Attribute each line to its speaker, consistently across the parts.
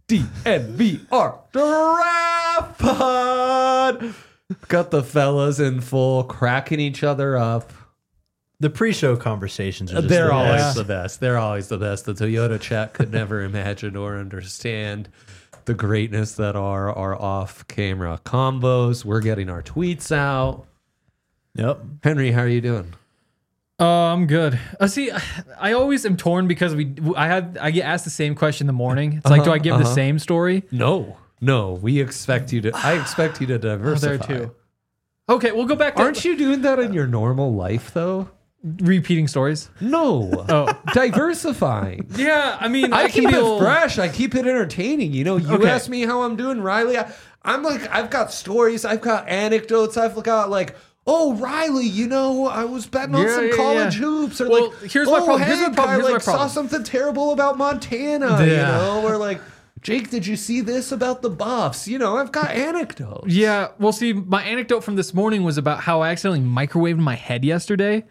Speaker 1: DNVR Draft Pod. Got the fellas in full, cracking each other up.
Speaker 2: The pre-show conversations are just
Speaker 1: They're
Speaker 2: the
Speaker 1: always
Speaker 2: best.
Speaker 1: the best. They're always the best. The Toyota chat could never imagine or understand the greatness that are our off-camera combos. We're getting our tweets out.
Speaker 2: Yep.
Speaker 1: Henry, how are you doing?
Speaker 3: I'm good. See, I always am torn because I get asked the same question in the morning. It's like, do I give the same story?
Speaker 1: No. We expect you to. I expect you to diversify.
Speaker 3: There too. Okay, we'll go back to
Speaker 1: Aren't you doing that in your normal life, though?
Speaker 3: repeating stories.
Speaker 1: No.
Speaker 3: Oh,
Speaker 1: Diversifying.
Speaker 3: yeah. I mean,
Speaker 1: I
Speaker 3: can
Speaker 1: keep
Speaker 3: be
Speaker 1: it
Speaker 3: a little-
Speaker 1: fresh. I keep it entertaining. You know, you
Speaker 3: Okay.
Speaker 1: ask me how I'm doing, Riley. I'm like, I've got stories. I've got anecdotes. I've got like, oh, Riley, you know, I was betting on some college hoops. Or
Speaker 3: Well,
Speaker 1: like,
Speaker 3: here's my problem.
Speaker 1: Hank,
Speaker 3: Here's my
Speaker 1: I saw
Speaker 3: problem.
Speaker 1: something terrible about Montana. You
Speaker 3: Yeah.
Speaker 1: know, or like, Jake, did you see this about the Buffs? You know, I've got anecdotes.
Speaker 3: Yeah. Well, see, my anecdote from this morning was about how I accidentally microwaved my head yesterday.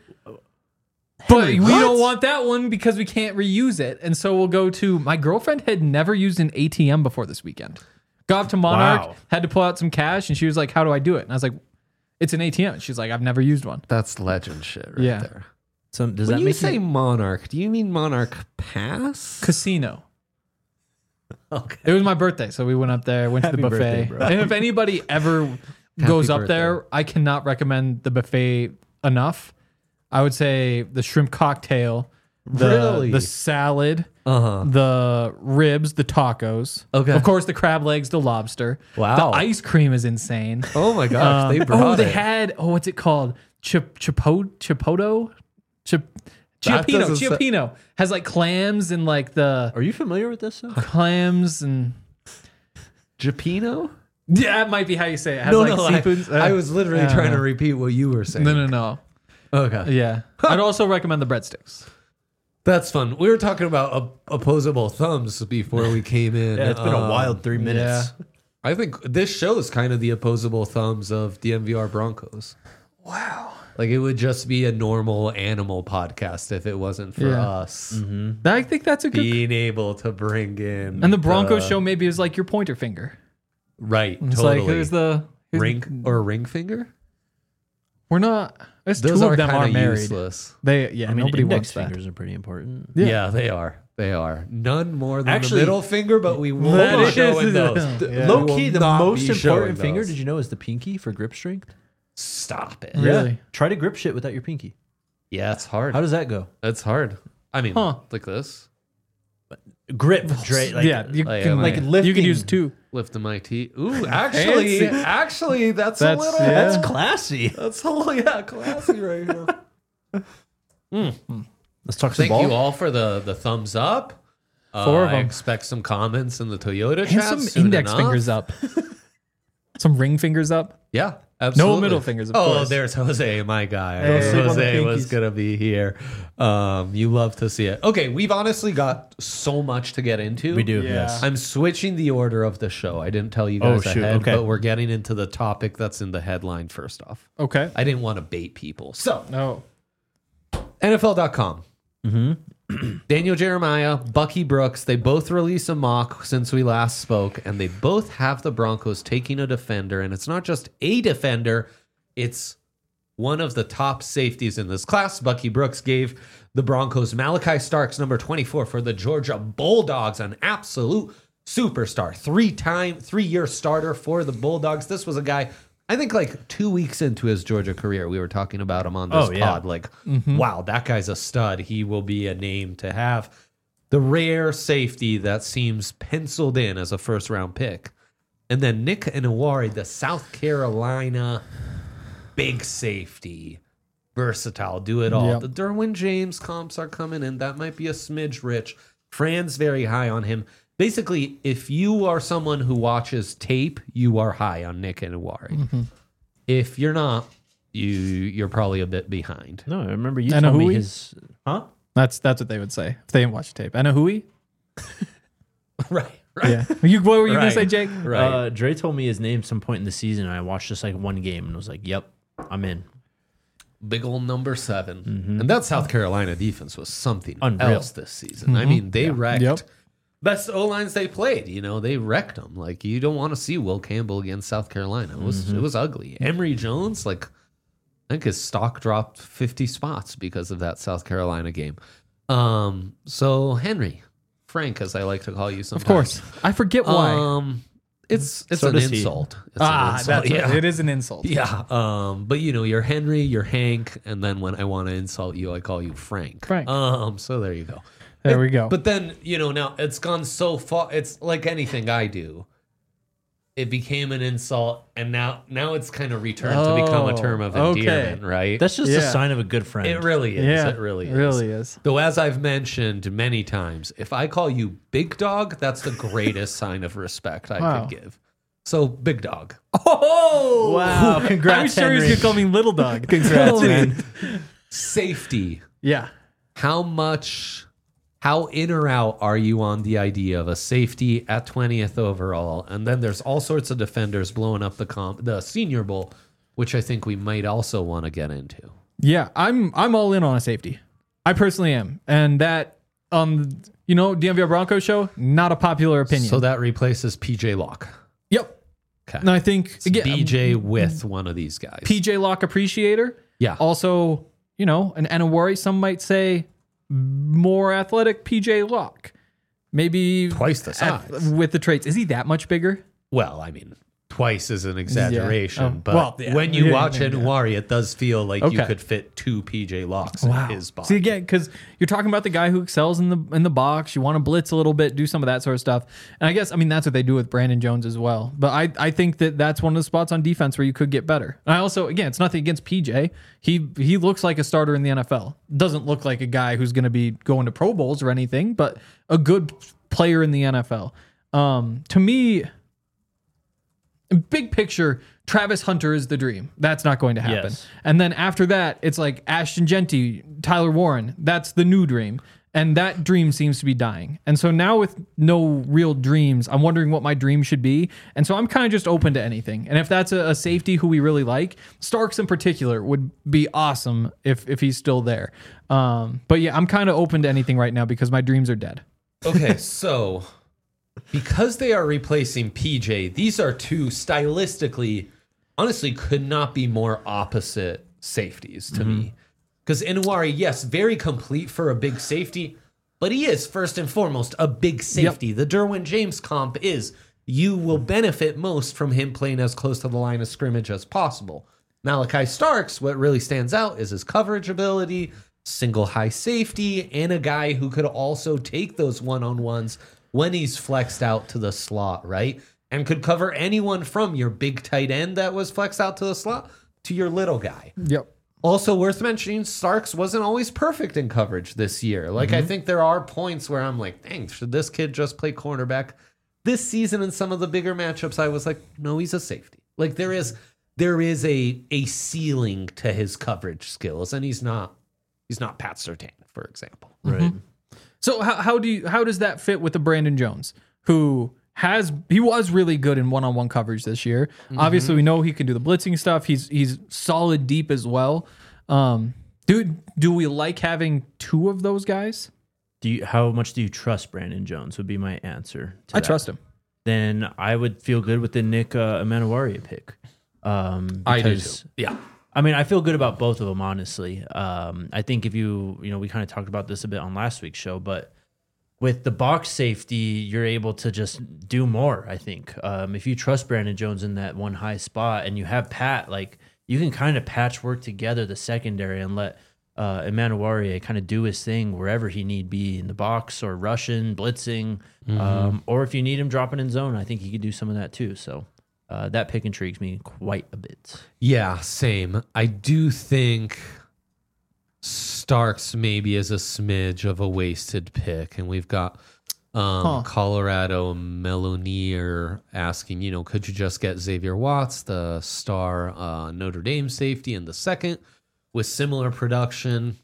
Speaker 3: But we don't want that one because we can't reuse it. And so we'll go to my girlfriend had never used an ATM before this weekend. Got up to Monarch,
Speaker 2: Wow.
Speaker 3: had to pull out some cash, and she was like, how do I do it? And I was like, it's an ATM. And she's like, I've never used one.
Speaker 1: That's legend shit right
Speaker 3: Yeah.
Speaker 1: there.
Speaker 2: So does
Speaker 1: When
Speaker 2: that
Speaker 1: you
Speaker 2: make
Speaker 1: say Monarch, do you mean Monarch Pass?
Speaker 3: Casino.
Speaker 1: Okay.
Speaker 3: It was my birthday, so we went up there, went to
Speaker 2: Happy
Speaker 3: the
Speaker 2: birthday,
Speaker 3: buffet.
Speaker 2: bro.
Speaker 3: And if anybody ever goes up
Speaker 1: birthday.
Speaker 3: there, I cannot recommend the buffet enough. I would say the shrimp cocktail,
Speaker 1: Really?
Speaker 3: the salad,
Speaker 1: Uh-huh.
Speaker 3: the ribs, the tacos.
Speaker 1: Okay.
Speaker 3: Of course, the crab legs, the lobster.
Speaker 1: Wow.
Speaker 3: The ice cream is insane.
Speaker 1: Oh my gosh, they brought
Speaker 3: they
Speaker 1: it.
Speaker 3: had, what's it called? Chipotle?
Speaker 1: doesn't say-
Speaker 3: Chiappino has like clams and like the
Speaker 2: Are you familiar with this?
Speaker 3: clams and
Speaker 1: Japino?
Speaker 3: yeah, that might be how you say it. It has like seafoods.
Speaker 1: I was literally trying to repeat what you were saying.
Speaker 3: No.
Speaker 1: Okay.
Speaker 3: Yeah. I'd also recommend the breadsticks.
Speaker 1: That's fun. We were talking about opposable thumbs before we came in.
Speaker 2: Yeah, it's been a wild 3 minutes.
Speaker 1: I think this show is kind of the opposable thumbs of DMVR Broncos.
Speaker 3: Wow.
Speaker 1: Like it would just be a normal animal podcast if it wasn't for
Speaker 3: Yeah.
Speaker 1: us
Speaker 3: I think that's a good.
Speaker 1: being able to bring in.
Speaker 3: And the Broncos show maybe is like your pointer finger.
Speaker 1: Right.
Speaker 3: It's
Speaker 1: totally.
Speaker 3: like here's
Speaker 1: ring or ring finger?
Speaker 3: we're not. There's
Speaker 1: Those
Speaker 3: two
Speaker 1: are
Speaker 3: of them are
Speaker 1: kind of
Speaker 3: married.
Speaker 1: useless.
Speaker 3: They
Speaker 2: I mean,
Speaker 3: nobody
Speaker 2: index
Speaker 3: wants that.
Speaker 2: fingers are pretty important.
Speaker 1: Yeah. they are. They are. None more than
Speaker 2: Actually,
Speaker 1: the middle finger, but we won't
Speaker 3: that
Speaker 1: be
Speaker 3: is-
Speaker 1: showing those.
Speaker 3: Yeah.
Speaker 2: Low
Speaker 1: We
Speaker 2: key,
Speaker 1: will
Speaker 2: the
Speaker 1: not
Speaker 2: most
Speaker 1: be showing
Speaker 2: important finger,
Speaker 1: those.
Speaker 2: did you know, is the pinky for grip strength?
Speaker 1: Stop it.
Speaker 3: Really?
Speaker 2: Yeah. Try to grip shit without your pinky.
Speaker 1: Yeah, it's hard.
Speaker 2: How does that go?
Speaker 1: It's hard. I mean, like this.
Speaker 2: Grip, Dre. Like,
Speaker 3: yeah, you
Speaker 1: like,
Speaker 3: can
Speaker 1: like
Speaker 3: you can use
Speaker 2: lifting.
Speaker 3: two.
Speaker 1: Lifting my teeth. Ooh, actually, that's a
Speaker 3: That's-
Speaker 1: little.
Speaker 3: yeah.
Speaker 2: That's classy.
Speaker 1: That's a little, classy right here.
Speaker 2: Let's talk some
Speaker 1: Thank
Speaker 2: ball.
Speaker 1: you all for the thumbs up.
Speaker 3: Four of
Speaker 1: I
Speaker 3: them.
Speaker 1: expect some comments in the Toyota
Speaker 3: And
Speaker 1: chat.
Speaker 3: some
Speaker 1: soon
Speaker 3: index
Speaker 1: enough.
Speaker 3: fingers up. Some ring fingers up.
Speaker 1: Yeah, absolutely.
Speaker 3: middle fingers, of
Speaker 1: oh,
Speaker 3: course.
Speaker 1: there's Jose, my guy.
Speaker 3: Hey. Sleep on the
Speaker 1: Jose was
Speaker 3: pinkies.
Speaker 1: gonna be here. You love to see it. Okay, we've honestly got so much to get into.
Speaker 2: We do,
Speaker 3: Yeah.
Speaker 2: yes.
Speaker 1: I'm switching the order of the show. I didn't tell you guys
Speaker 2: Oh, shoot,
Speaker 1: ahead,
Speaker 2: okay.
Speaker 1: but we're getting into the topic that's in the headline first off.
Speaker 3: Okay.
Speaker 1: I didn't want to bait people. So,
Speaker 3: Oh.
Speaker 1: NFL.com. Daniel Jeremiah, Bucky Brooks, they both released a mock since we last spoke, and they both have the Broncos taking a defender, and it's not just a defender, it's one of the top safeties in this class. Bucky Brooks gave the Broncos Malachi Starks, number 24, for the Georgia Bulldogs, an absolute superstar. 3-year starter for the Bulldogs. This was a guy, I think like 2 weeks into his Georgia career, we were talking about him on this
Speaker 2: Oh, yeah.
Speaker 1: pod. Like, wow, that guy's a stud. He will be a name to have. The rare safety that seems penciled in as a first-round pick. And then Nick Inouye, the South Carolina big safety, versatile, do it all.
Speaker 3: Yep.
Speaker 1: The Derwin James comps are coming in. That might be a smidge rich. Fran's very high on him. Basically, if you are someone who watches tape, you are high on Nick Inouye. If you're not, you're probably a bit behind.
Speaker 2: No, I remember you
Speaker 3: I know
Speaker 2: told
Speaker 3: who
Speaker 2: me
Speaker 3: he-
Speaker 2: his... Huh?
Speaker 3: That's what they would say if they didn't watch the tape. Anahui?
Speaker 1: Right.
Speaker 3: Yeah. What were you gonna
Speaker 1: Right.
Speaker 3: say, Jake?
Speaker 1: Right.
Speaker 2: Dre told me his name some point in the season, and I watched just like one game, and was like, yep, I'm in.
Speaker 1: Big old number 7. And that South Carolina defense was something
Speaker 2: Unreal.
Speaker 1: else this season. I mean, they wrecked
Speaker 3: Yep.
Speaker 1: best O-lines they played. You know, they wrecked them. Like, you don't want to see Will Campbell against South Carolina. It was ugly. Emory Jones, like, I think his stock dropped 50 spots because of that South Carolina game. So Henry, Frank, as I like to call you sometimes.
Speaker 3: Of course. I forget why.
Speaker 1: It's
Speaker 2: So
Speaker 1: an
Speaker 2: does he.
Speaker 1: insult. It's an insult.
Speaker 3: That's
Speaker 1: Yeah.
Speaker 3: it is an insult.
Speaker 1: Yeah. But you know, you're Henry, you're Hank, and then when I want to insult you, I call you Frank.
Speaker 3: Frank.
Speaker 1: So there you go.
Speaker 3: There we go.
Speaker 1: But then, you know, now it's gone so far. It's like anything I do. It became an insult, and now it's kind of returned to become a term of endearment, right?
Speaker 2: That's just a
Speaker 3: Yeah.
Speaker 2: sign of a good friend.
Speaker 1: It really is.
Speaker 3: yeah,
Speaker 1: It really is.
Speaker 3: Really is.
Speaker 1: Though, as I've mentioned many times, if I call you Big Dog, that's the greatest sign of respect I
Speaker 3: Wow.
Speaker 1: could give. So, Big Dog.
Speaker 3: Oh
Speaker 2: Wow,
Speaker 3: I
Speaker 2: congrats,
Speaker 3: was sure he was
Speaker 2: Henry.
Speaker 3: gonna call me Little Dog.
Speaker 2: Congrats, man.
Speaker 1: Safety.
Speaker 3: Yeah.
Speaker 1: How in or out are you on the idea of a safety at 20th overall? And then there's all sorts of defenders blowing up the Senior Bowl, which I think we might also want to get into.
Speaker 3: Yeah, I'm all in on a safety. I personally am, and that DMVR Broncos show, not a popular opinion.
Speaker 1: So that replaces PJ Locke.
Speaker 3: Yep.
Speaker 1: Okay.
Speaker 3: And I think
Speaker 1: It's
Speaker 3: again,
Speaker 1: BJ with one of these guys.
Speaker 3: PJ Locke appreciator.
Speaker 1: Yeah.
Speaker 3: Also, an Anawari, some might say more athletic PJ Locke. Maybe
Speaker 1: Twice the size.
Speaker 3: with the traits. Is he that much bigger?
Speaker 1: Well, I mean, twice is an exaggeration,
Speaker 3: Oh,
Speaker 1: but
Speaker 3: well, yeah.
Speaker 1: when you
Speaker 3: Yeah,
Speaker 1: watch
Speaker 3: yeah,
Speaker 1: Anwari, it does feel like you
Speaker 3: Okay.
Speaker 1: could fit two PJ Locks in his body.
Speaker 3: See, again, because you're talking about the guy who excels in the box. You want to blitz a little bit, do some of that sort of stuff. And I guess, that's what they do with Brandon Jones as well. But I think that's one of the spots on defense where you could get better. And I also, again, it's nothing against PJ. He looks like a starter in the NFL. Doesn't look like a guy who's going to be going to Pro Bowls or anything, but a good player in the NFL. To me, big picture, Travis Hunter is the dream. That's not going to happen.
Speaker 2: Yes.
Speaker 3: And then after that, it's like Ashton Genty, Tyler Warren. That's the new dream. And that dream seems to be dying. And so now with no real dreams, I'm wondering what my dream should be. And so I'm kind of just open to anything. And if that's a safety who we really like, Starks in particular would be awesome if he's still there. But yeah, I'm kind of open to anything right now because my dreams are dead.
Speaker 1: Okay, so because they are replacing PJ, these are two stylistically, honestly, could not be more opposite safeties to me. Because Anwari, yes, very complete for a big safety, but he is first and foremost a big safety. The Derwin James comp is you will benefit most from him playing as close to the line of scrimmage as possible. Malachi Starks, what really stands out is his coverage ability, single high safety, and a guy who could also take those one-on-ones when he's flexed out to the slot, right? And could cover anyone from your big tight end that was flexed out to the slot to your little guy.
Speaker 3: Yep.
Speaker 1: Also worth mentioning, Starks wasn't always perfect in coverage this year. Like, I think there are points where I'm like, dang, should this kid just play cornerback? This season in some of the bigger matchups, I was like, no, he's a safety. Like, there is a ceiling to his coverage skills, and he's not Pat Surtain, for example.
Speaker 2: Right.
Speaker 3: So how does that fit with the Brandon Jones, who he was really good in one-on-one coverage this year. Obviously, we know he can do the blitzing stuff. He's solid deep as well. Do we like having two of those guys?
Speaker 2: How much do you trust Brandon Jones? Would be my answer.
Speaker 3: I trust him.
Speaker 2: Then I would feel good with the Nick Emanuaria pick.
Speaker 1: I do
Speaker 2: Because
Speaker 1: too. Yeah.
Speaker 2: I mean, I feel good about both of them, honestly. I think if we kind of talked about this a bit on last week's show, but with the box safety, you're able to just do more, I think. If you trust Brandon Jones in that one high spot and you have Pat, like, you can kind of patchwork together the secondary and let Emanuaria kind of do his thing wherever he need be in the box or rushing, blitzing, or if you need him dropping in zone, I think he could do some of that too. So that pick intrigues me quite a bit.
Speaker 1: Yeah, same. I do think Starks maybe is a smidge of a wasted pick, and we've got Colorado Melonier asking, could you just get Xavier Watts, the star Notre Dame safety, in the second with similar production?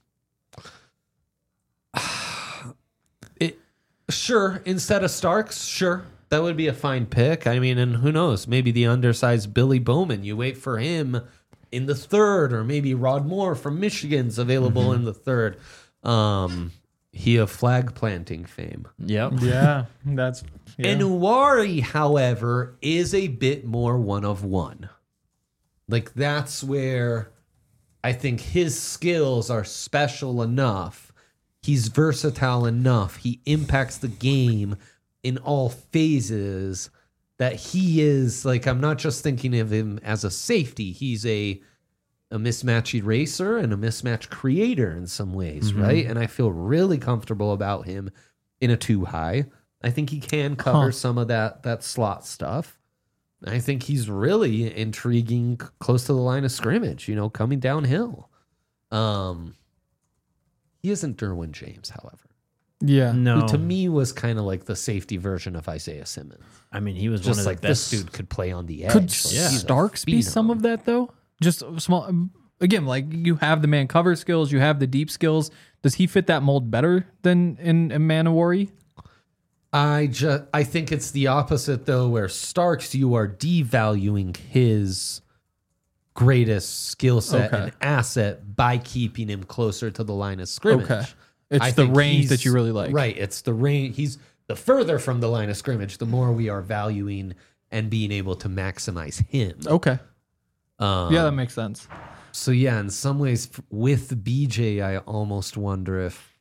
Speaker 1: Sure, instead of Starks, sure. That would be a fine pick. I mean, and who knows? Maybe the undersized Billy Bowman. You wait for him in the third, or maybe Rod Moore from Michigan's available in the third. He of flag planting fame.
Speaker 2: Yep.
Speaker 3: Yeah, that's
Speaker 1: Enuari, however, is a bit more one of one. Like, that's where I think his skills are special enough. He's versatile enough. He impacts the game in all phases that he is, like, I'm not just thinking of him as a safety. He's a mismatch eraser and a mismatch creator in some ways, right? And I feel really comfortable about him in a 2-high. I think he can cover some of that slot stuff. I think he's really intriguing close to the line of scrimmage, coming downhill. He isn't Derwin James, however.
Speaker 3: yeah.
Speaker 2: No.
Speaker 1: Who to me was kind of like the safety version of Isaiah Simmons.
Speaker 2: I mean, he was
Speaker 1: Just
Speaker 2: one of
Speaker 1: like
Speaker 2: the best.
Speaker 1: this dude could play on the edge.
Speaker 3: Could
Speaker 1: Like, he's a
Speaker 3: Starks be some
Speaker 1: phenom.
Speaker 3: of that though? Just small. Again, like you have the man cover skills, you have the deep skills. Does he fit that mold better than in Manowari?
Speaker 1: I think it's the opposite though, where Starks, you are devaluing his greatest skill set
Speaker 3: Okay.
Speaker 1: and asset by keeping him closer to the line of scrimmage.
Speaker 3: Okay. It's
Speaker 1: I
Speaker 3: the
Speaker 1: think
Speaker 3: range that
Speaker 1: he's-
Speaker 3: you really like.
Speaker 1: Right. It's the range. He's the further from the line of scrimmage, the more we are valuing and being able to maximize him.
Speaker 3: Okay. Yeah, that makes sense.
Speaker 1: So yeah, in some ways with BJ, I almost wonder if,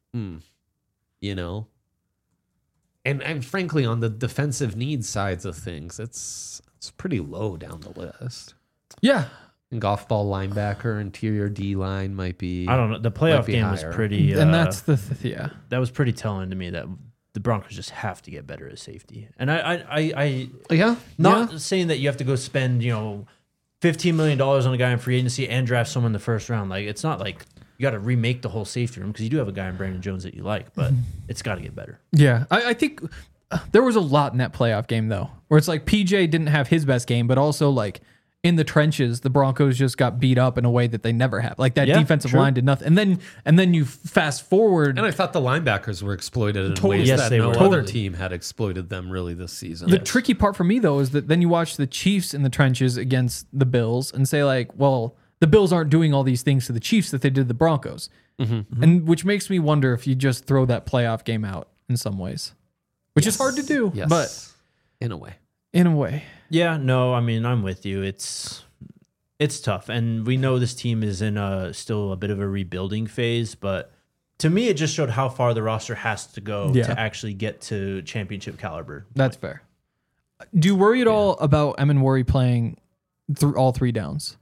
Speaker 1: and frankly, on the defensive needs sides of things, it's pretty low down the list.
Speaker 3: Yeah.
Speaker 1: And golf ball linebacker, interior D line might be.
Speaker 2: I don't know. The
Speaker 1: Might
Speaker 2: playoff
Speaker 1: be
Speaker 2: game was
Speaker 1: higher.
Speaker 2: pretty.
Speaker 3: And that's the yeah.
Speaker 2: that was pretty telling to me that the Broncos just have to get better at safety. And I
Speaker 1: Yeah.
Speaker 2: not saying that you have to go spend $15 million on a guy in free agency and draft someone in the first round. Like, it's not like you got to remake the whole safety room because you do have a guy in Brandon Jones that you like, but it's got to get better.
Speaker 3: Yeah. I think there was a lot in that playoff game though, where it's like PJ didn't have his best game, but also like in the trenches, the Broncos just got beat up in a way that they never have. Like that
Speaker 2: Yeah,
Speaker 3: defensive
Speaker 2: true.
Speaker 3: line did nothing. And then you fast forward.
Speaker 1: And I thought the linebackers were exploited in ways
Speaker 2: Yes,
Speaker 1: that
Speaker 2: they
Speaker 1: no
Speaker 2: were.
Speaker 1: other
Speaker 2: Totally.
Speaker 1: team had exploited them really this season.
Speaker 3: The tricky part for me though is that then you watch the Chiefs in the trenches against the Bills and say like, well, the Bills aren't doing all these things to the Chiefs that they did the Broncos, and which makes me wonder if you just throw that playoff game out in some ways, which is hard to do,
Speaker 1: Yes.
Speaker 3: but
Speaker 1: in a way.
Speaker 3: in a way,
Speaker 2: Yeah, no, I mean, I'm with you. It's tough, and we know this team is in still a bit of a rebuilding phase. But to me, it just showed how far the roster has to go
Speaker 3: Yeah.
Speaker 2: to actually get to championship caliber.
Speaker 3: that's fair. Do you worry at all about Emanwari playing through all 3 downs?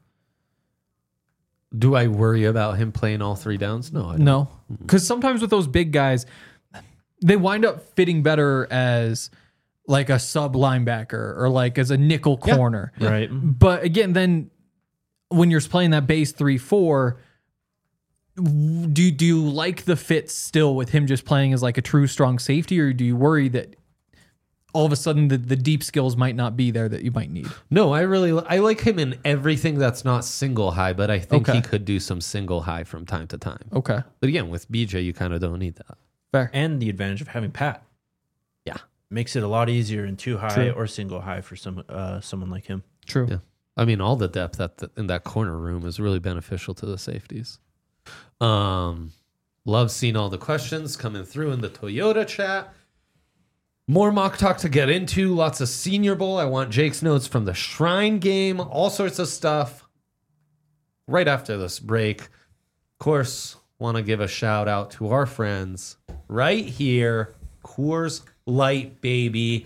Speaker 1: Do I worry about him playing all 3 downs? No, I don't.
Speaker 3: No, because sometimes with those big guys, they wind up fitting better as like a sub linebacker or like as a nickel corner.
Speaker 2: Right.
Speaker 3: But again, then when you're playing that base 3-4, do you like the fit still with him just playing as like a true strong safety, or do you worry that all of a sudden the deep skills might not be there that you might need?
Speaker 1: No, I like him in everything that's not single high, but I think
Speaker 3: Okay.
Speaker 1: he could do some single high from time to time.
Speaker 3: Okay,
Speaker 1: But again, with BJ, you kind of don't need that.
Speaker 3: fair.
Speaker 2: And the advantage of having Pat
Speaker 1: Yeah.
Speaker 2: makes it a lot easier in 2-high
Speaker 3: True.
Speaker 2: or single high for someone like him.
Speaker 3: True.
Speaker 1: Yeah. I mean, all the depth in that corner room is really beneficial to the safeties. Love seeing all the questions coming through in the Toyota chat. More mock talk to get into. Lots of Senior Bowl. I want Jake's notes from the Shrine game. All sorts of stuff. Right after this break. Of course, want to give a shout out to our friends right here. Coors Light, baby.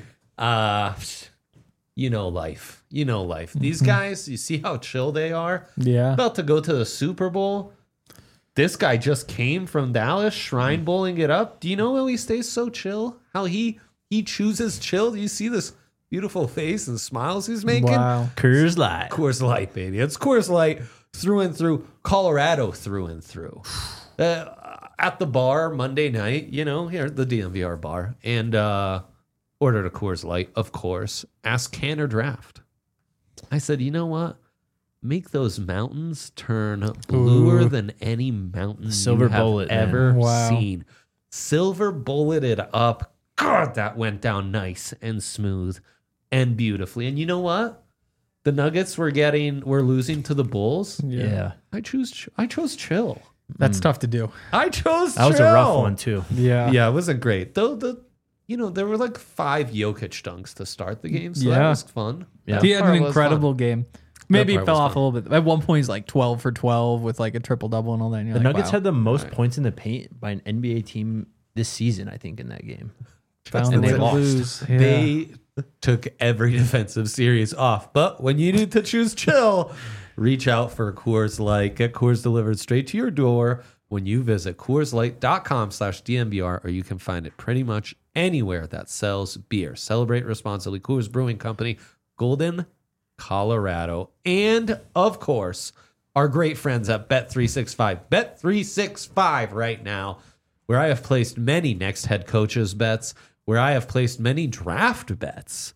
Speaker 1: You know life. These guys, you see how chill they are?
Speaker 3: Yeah.
Speaker 1: About to go to the Super Bowl. This guy just came from Dallas, Shrine Bowling it up. Do you know how he stays so chill? How he chooses chill? Do you see this beautiful face and smiles he's making?
Speaker 3: Wow.
Speaker 2: Coors Light.
Speaker 1: Coors Light, baby. It's Coors Light through and through. Colorado through and through. At the bar Monday night, here at the DMVR bar, and ordered a Coors Light, of course. Asked can or draft. I said, you know what? Make those mountains turn bluer than any mountain
Speaker 2: Silver
Speaker 1: you have
Speaker 2: bullet, man.
Speaker 1: ever
Speaker 3: Wow.
Speaker 1: seen. Silver bulleted up. God, that went down nice and smooth and beautifully. And you know what? The Nuggets were losing to the Bulls.
Speaker 2: Yeah.
Speaker 1: I chose chill.
Speaker 3: That's tough to do.
Speaker 1: I chose
Speaker 2: That was a
Speaker 1: Trill.
Speaker 2: rough one too.
Speaker 3: Yeah.
Speaker 1: Yeah, it wasn't great. Though there were like 5 Jokic dunks to start the game, so that
Speaker 3: Yeah.
Speaker 1: was fun.
Speaker 2: Yeah.
Speaker 1: That
Speaker 3: He had
Speaker 1: part
Speaker 3: an
Speaker 1: was
Speaker 3: incredible
Speaker 1: fun.
Speaker 3: game. Maybe
Speaker 1: part
Speaker 3: it fell
Speaker 1: was
Speaker 3: off
Speaker 1: fun.
Speaker 3: a little bit. At one point, he's like 12 for 12 with like a triple double and all that. And you're
Speaker 2: The
Speaker 3: like,
Speaker 2: Nuggets
Speaker 3: wow.
Speaker 2: had the most points in the paint by an NBA team this season, I think, in that game.
Speaker 3: Found
Speaker 1: And
Speaker 3: a way
Speaker 1: they
Speaker 3: to
Speaker 1: lost.
Speaker 3: lose. Yeah.
Speaker 1: They took every defensive series off. But when you need to choose chill, reach out for Coors Light. Get Coors delivered straight to your door when you visit CoorsLight.com/DNVR, or you can find it pretty much anywhere that sells beer. Celebrate responsibly. Coors Brewing Company, Golden, Colorado. And, of course, our great friends at Bet365. Bet365 right now, where I have placed many next head coaches bets, where I have placed many draft bets.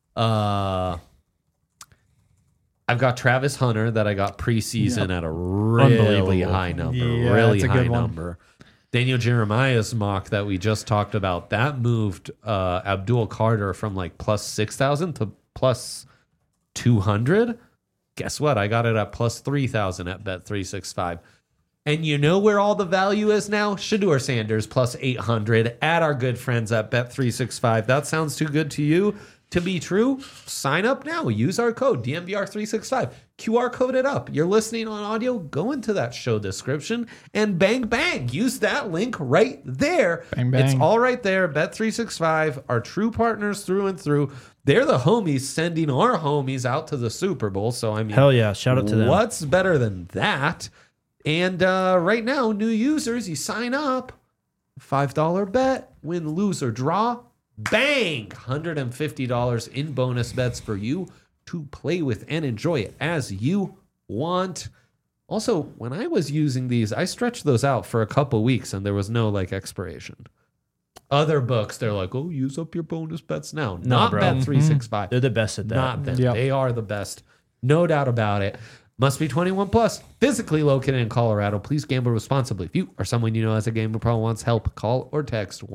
Speaker 1: I've got Travis Hunter that I got preseason at a really
Speaker 2: Unbelievable.
Speaker 1: high number.
Speaker 3: Yeah,
Speaker 1: really
Speaker 3: that's a
Speaker 1: high
Speaker 3: good one.
Speaker 1: number. Daniel Jeremiah's mock that we just talked about, that moved Abdul Carter from like plus 6,000 to plus 200. Guess what? I got it at plus 3,000 at Bet365. And you know where all the value is now? Shador Sanders plus 800 at our good friends at Bet365. That sounds too good to you to be true? Sign up now. Use our code DNVR365. QR code it up. You're listening on audio, go into that show description and bang, bang. Use that link right there.
Speaker 3: Bang, bang.
Speaker 1: It's all right there. Bet365, our true partners through and through. They're the homies sending our homies out to the Super Bowl. So, I mean,
Speaker 2: Hell yeah. Shout out to them.
Speaker 1: what's better than that? And right now, new users, you sign up, $5 bet, win, lose, or draw. Bang! $150 in bonus bets for you to play with and enjoy it as you want. Also, when I was using these, I stretched those out for a couple weeks and there was no like expiration. Other books, they're like, oh, use up your bonus bets now. Not
Speaker 2: bro.
Speaker 1: Bet365.
Speaker 2: They're the best at that.
Speaker 1: Not them.
Speaker 3: Yep.
Speaker 1: They are the best. No doubt about it. Must be 21 plus. Physically located in Colorado. Please gamble responsibly. If you or someone you know has a gambling problem wants help, call or text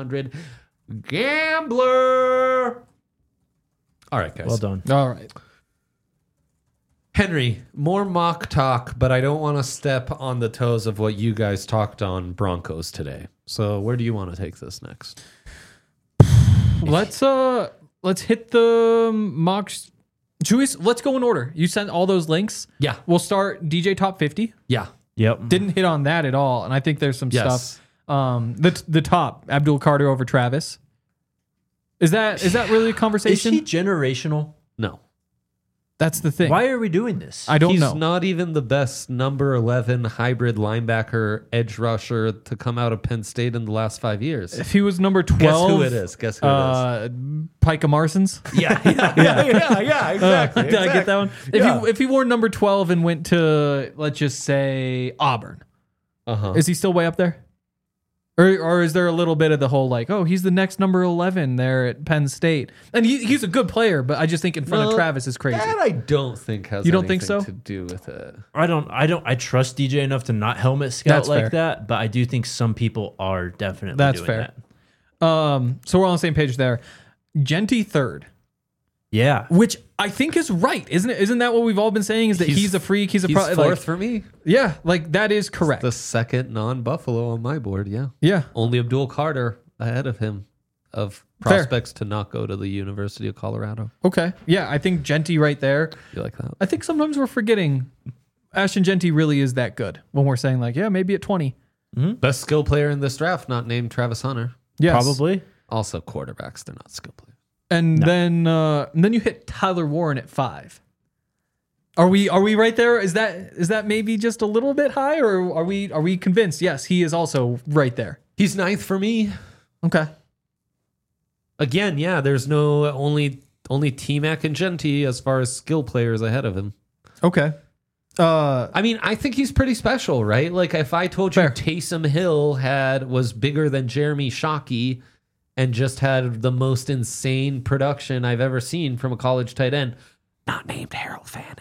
Speaker 1: 1-800-GAMBLER. All right, guys.
Speaker 2: Well done.
Speaker 3: All right.
Speaker 1: Henry, more mock talk, but I don't want to step on the toes of what you guys talked on Broncos today. So where do you want to take this next?
Speaker 3: Let's hit the mocks. Julius, let's go in order. You sent all those links.
Speaker 1: Yeah.
Speaker 3: We'll start DJ top 50.
Speaker 1: Yeah.
Speaker 2: Yep.
Speaker 3: Didn't hit on that at all, and I think there's some
Speaker 1: Yes.
Speaker 3: stuff. The top Abdul Carter over Travis. Is that really a
Speaker 2: Is
Speaker 3: conversation?
Speaker 2: he generational?
Speaker 1: No.
Speaker 3: That's the thing.
Speaker 2: Why are we doing this?
Speaker 3: I don't
Speaker 1: He's
Speaker 3: know.
Speaker 1: not even the best number 11 hybrid linebacker edge rusher to come out of Penn State in the last 5 years.
Speaker 3: If he was number 12,
Speaker 1: Guess who it is? Guess who it
Speaker 3: Pika Marsons.
Speaker 1: is? Yeah, exactly.
Speaker 3: Did I get that one?
Speaker 1: Yeah.
Speaker 3: If he wore number 12 and went to, let's just say, Auburn,
Speaker 1: Uh-huh.
Speaker 3: is he still way up there? Or is there a little bit of the whole like, oh, he's the next number 11 there at Penn State, and he's a good player, but I just think in front of
Speaker 1: No,
Speaker 3: Travis is crazy.
Speaker 1: That I don't think has
Speaker 3: You don't think
Speaker 1: anything
Speaker 3: so?
Speaker 1: to do with it.
Speaker 2: I trust DJ enough to not helmet scout
Speaker 3: That's
Speaker 2: like
Speaker 3: fair.
Speaker 2: that, but I do think some people are definitely
Speaker 3: That's
Speaker 2: doing
Speaker 3: fair.
Speaker 2: that.
Speaker 3: So we're on the same page there. Genty third,
Speaker 2: Yeah.
Speaker 3: which I think is right, isn't it? Isn't that what we've all been saying? Is that he's a freak? He's
Speaker 1: fourth
Speaker 3: like,
Speaker 1: for me.
Speaker 3: yeah, like that is correct.
Speaker 1: The second non-Buffalo on my board, yeah.
Speaker 3: Yeah,
Speaker 1: Only Abdul Carter ahead of him of
Speaker 3: Fair.
Speaker 1: prospects to not go to the University of Colorado.
Speaker 3: okay, yeah, I think Genty right there.
Speaker 1: You like that?
Speaker 3: I think sometimes we're forgetting Ashton Genty really is that good when we're saying like, yeah, maybe at 20.
Speaker 1: Best skill player in this draft, not named Travis Hunter.
Speaker 3: Yes.
Speaker 2: Probably.
Speaker 1: Also quarterbacks, they're not skill players.
Speaker 3: And then you hit Tyler Warren at 5. Are we right there? Is that maybe just a little bit high, or are we convinced? Yes, he is also right there.
Speaker 1: He's ninth for me.
Speaker 3: Okay.
Speaker 1: Again, yeah, there's no only T-Mac and Genty as far as skill players ahead of him.
Speaker 3: Okay.
Speaker 1: I mean, I think he's pretty special, right? Like if I told you
Speaker 3: Fair.
Speaker 1: Taysom Hill was bigger than Jeremy Shockey and just had the most insane production I've ever seen from a college tight end, not named Harold Fannin.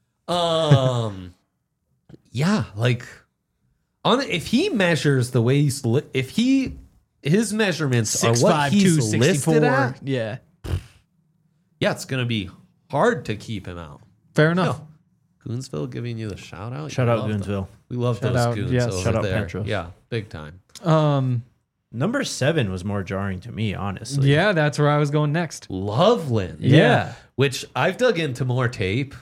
Speaker 1: Yeah, like if he measures the way his measurements are what he's listed at,
Speaker 3: Yeah.
Speaker 1: yeah, it's gonna be hard to keep him out.
Speaker 3: Fair enough.
Speaker 1: No. Goonsville giving you the shout out.
Speaker 2: Shout out Goonsville.
Speaker 1: We love
Speaker 3: Shout
Speaker 1: those
Speaker 3: out,
Speaker 1: goons
Speaker 3: yes.
Speaker 1: over
Speaker 2: Shout out
Speaker 1: there.
Speaker 2: Petros.
Speaker 1: Yeah, big time.
Speaker 2: Number 7 was more jarring to me, honestly.
Speaker 3: Yeah, that's where I was going next.
Speaker 1: Loveland.
Speaker 2: Yeah.
Speaker 1: Which I've dug into more tape.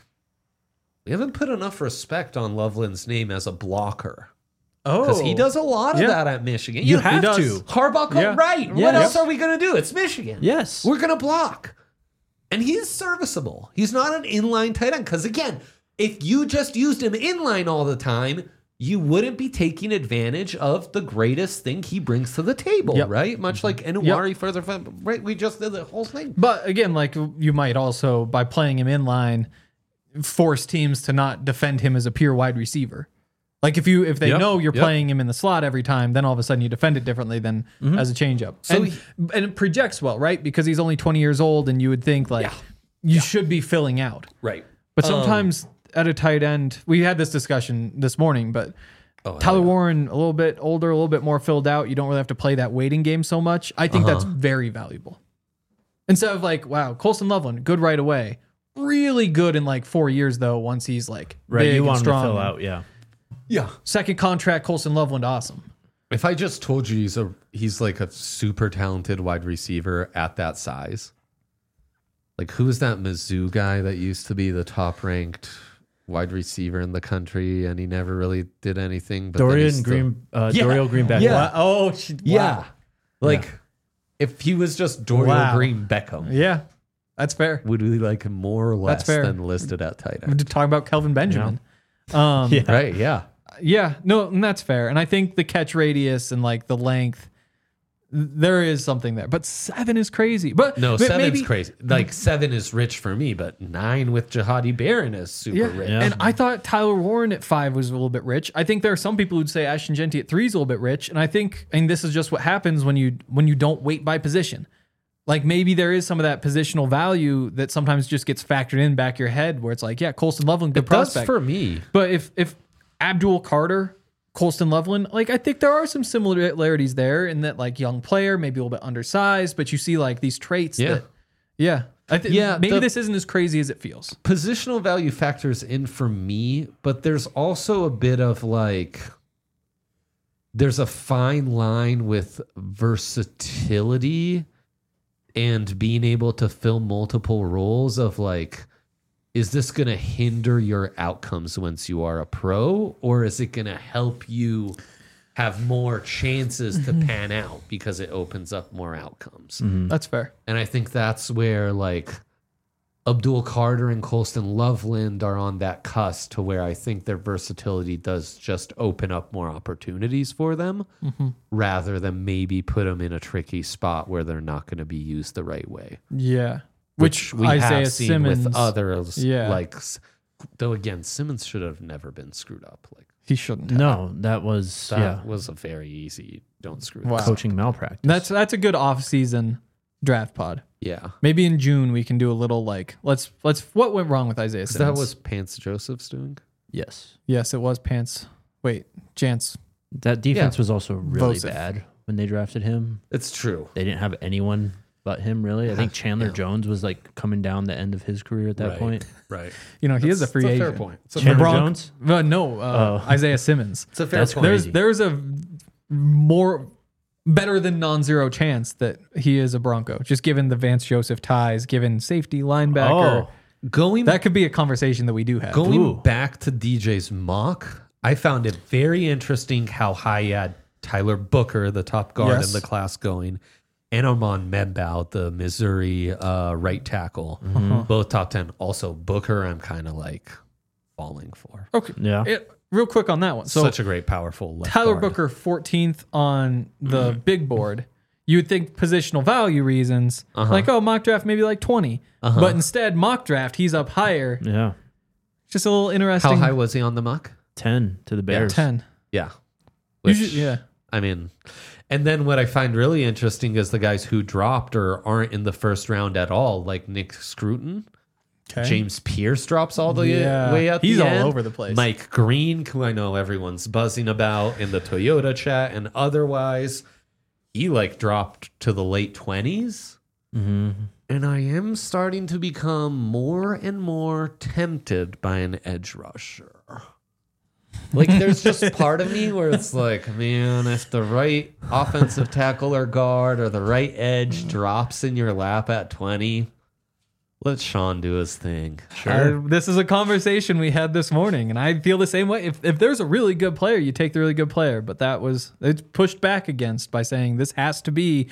Speaker 1: We haven't put enough respect on Loveland's name as a blocker.
Speaker 3: Oh,
Speaker 1: Because he does a lot of
Speaker 3: Yeah.
Speaker 1: that at Michigan.
Speaker 2: You
Speaker 1: know,
Speaker 2: have
Speaker 1: he does.
Speaker 2: to.
Speaker 1: Harbaugh,
Speaker 3: Yeah.
Speaker 1: right.
Speaker 2: Yeah.
Speaker 1: What
Speaker 2: Yep.
Speaker 1: else are we going to do? It's Michigan.
Speaker 2: Yes.
Speaker 1: We're going to block. And he's serviceable. He's not an inline tight end. Because again, if you just used him inline all the time, you wouldn't be taking advantage of the greatest thing he brings to the table,
Speaker 3: Yep.
Speaker 1: right? Much like Enuari further from, right? We just did the whole thing.
Speaker 3: But again, like you might also, by playing him in line, force teams to not defend him as a pure wide receiver. Like if they
Speaker 1: Yep,
Speaker 3: know you're
Speaker 1: yep.
Speaker 3: playing him in the slot every time, then all of a sudden you defend it differently than as a changeup.
Speaker 1: So
Speaker 3: And it projects well, right? Because he's only 20 years old, and you would think like you should be filling out.
Speaker 1: Right.
Speaker 3: But sometimes at a tight end, we had this discussion this morning, but Tyler Warren, a little bit older, a little bit more filled out. You don't really have to play that waiting game so much. I think that's very valuable. Instead of like, wow, Colston Loveland, good right away. Really good in like 4 years, though, once he's like
Speaker 2: Right.
Speaker 3: big
Speaker 2: You
Speaker 3: and
Speaker 2: want him to
Speaker 3: strong.
Speaker 2: fill out. Yeah.
Speaker 1: Yeah.
Speaker 3: Second contract, Colston Loveland, awesome.
Speaker 1: If I just told you he's like a super talented wide receiver at that size, like who was that Mizzou guy that used to be the top ranked wide receiver in the country and he never really did anything? But then he's
Speaker 2: Dorial
Speaker 1: still-
Speaker 2: Greenback.
Speaker 1: Yeah.
Speaker 3: Wow. Oh,
Speaker 1: Yeah. Like if he was just Dorial
Speaker 3: Wow.
Speaker 1: Green Beckham,
Speaker 3: Yeah, that's fair.
Speaker 1: would we like him more or less
Speaker 3: fair.
Speaker 1: than listed at tight
Speaker 3: I'm
Speaker 1: end?
Speaker 3: just talking about Kelvin Benjamin.
Speaker 2: Yeah.
Speaker 1: Right. Yeah.
Speaker 3: Yeah, no, and that's fair. And I think the catch radius and like the length, there is something there. But 7 is crazy. But
Speaker 1: No,
Speaker 3: but
Speaker 1: 7's
Speaker 3: maybe-
Speaker 1: crazy. Like 7 is rich for me, but 9 with Jihadi Barron is super
Speaker 3: Yeah.
Speaker 1: rich.
Speaker 2: Yeah.
Speaker 3: And I thought Tyler Warren at 5 was a little bit rich. I think there are some people who'd say Ashton Genty at 3 is a little bit rich. And I think, and this is just what happens when you don't weight by position. Like maybe there is some of that positional value that sometimes just gets factored in back of your head where it's like, yeah, Colston Loveland, good
Speaker 1: It does
Speaker 3: prospect.
Speaker 1: for me.
Speaker 3: But if Abdul Carter, Colston Loveland, like I think there are some similarities there in that like young player, maybe a little bit undersized, but you see like these traits
Speaker 1: Yeah.
Speaker 3: that, yeah. I think
Speaker 1: Yeah,
Speaker 3: maybe
Speaker 1: the-
Speaker 3: this isn't as crazy as it feels.
Speaker 1: Positional value factors in for me, but there's also a bit of like, there's a fine line with versatility and being able to fill multiple roles of like, is this going to hinder your outcomes once you are a pro, or is it going to help you have more chances to pan out because it opens up more outcomes?
Speaker 3: That's fair.
Speaker 1: And I think that's where like Abdul Carter and Colston Loveland are on that cusp to where I think their versatility does just open up more opportunities for them rather than maybe put them in a tricky spot where they're not going to be used the right way.
Speaker 3: Yeah.
Speaker 1: Which we
Speaker 3: Isaiah
Speaker 1: have seen
Speaker 3: Simmons,
Speaker 1: with others.
Speaker 3: Yeah.
Speaker 1: Like, though again, Simmons should have never been screwed up. Like
Speaker 3: he shouldn't have.
Speaker 2: No, that was
Speaker 1: that was a very easy don't screw
Speaker 3: Wow.
Speaker 1: this up.
Speaker 2: coaching malpractice.
Speaker 3: That's a good off-season draft pod.
Speaker 1: Yeah.
Speaker 3: Maybe in June we can do a little like let's what went wrong with Isaiah
Speaker 1: 'Cause
Speaker 3: Simmons?
Speaker 1: that was Pants Joseph's doing.
Speaker 2: Yes.
Speaker 3: yes, it was Pants. Wait, Chance.
Speaker 2: That defense
Speaker 1: Yeah.
Speaker 2: was also really
Speaker 3: Vosif.
Speaker 2: bad when they drafted him.
Speaker 1: It's true.
Speaker 2: They didn't have anyone but him, really. I think Chandler
Speaker 1: Yeah.
Speaker 2: Jones was like coming down the end of his career at that
Speaker 1: Right.
Speaker 2: point.
Speaker 1: Right.
Speaker 3: You know, he is a free
Speaker 1: It's
Speaker 3: agent.
Speaker 1: fair point. It's a
Speaker 2: Chandler
Speaker 1: fair,
Speaker 2: Jones?
Speaker 3: No, Isaiah Simmons.
Speaker 1: it's a fair
Speaker 2: That's
Speaker 1: point.
Speaker 2: crazy.
Speaker 3: There's a more better than non-zero chance that he is a Bronco, just given the Vance Joseph ties, given safety linebacker.
Speaker 2: Oh,
Speaker 1: Going
Speaker 3: That could be a conversation that we do have.
Speaker 1: going
Speaker 2: Ooh.
Speaker 1: back to DJ's mock, I found it very interesting how high he had Tyler Booker, the top guard
Speaker 3: Yes.
Speaker 1: in the class, going, and Armand Membout, the Missouri right tackle, both top 10. Also, Booker, I'm kind of like falling for.
Speaker 3: Okay.
Speaker 2: yeah.
Speaker 3: Real quick on that one. So
Speaker 1: Such a great, powerful left
Speaker 3: Tyler
Speaker 1: guard.
Speaker 3: Booker, 14th on the big board. You would think positional value reasons, like, oh, mock draft maybe like 20. But instead, mock draft, he's up higher.
Speaker 2: Yeah.
Speaker 3: Just a little interesting.
Speaker 1: How high was he on the mock?
Speaker 2: 10 to the Bears.
Speaker 3: 10.
Speaker 1: Yeah. Which,
Speaker 3: Usually, yeah.
Speaker 1: I mean, and then what I find really interesting is the guys who dropped or aren't in the first round at all, like Nick Scruton.
Speaker 3: Okay.
Speaker 1: James Pierce drops all the
Speaker 3: Yeah.
Speaker 1: way at
Speaker 3: He's
Speaker 1: the
Speaker 3: all
Speaker 1: end.
Speaker 3: over the place.
Speaker 1: Mike Green, who I know everyone's buzzing about in the Toyota chat and otherwise, he like dropped to the late 20s. And I am starting to become more and more tempted by an edge rusher. Like, there's just part of me where it's like, man, if the right offensive tackle or guard or the right edge drops in your lap at 20, let Sean do his thing.
Speaker 3: This is a conversation we had this morning, and I feel the same way. If there's a really good player, you take the really good player. But it's pushed back against by saying this has to be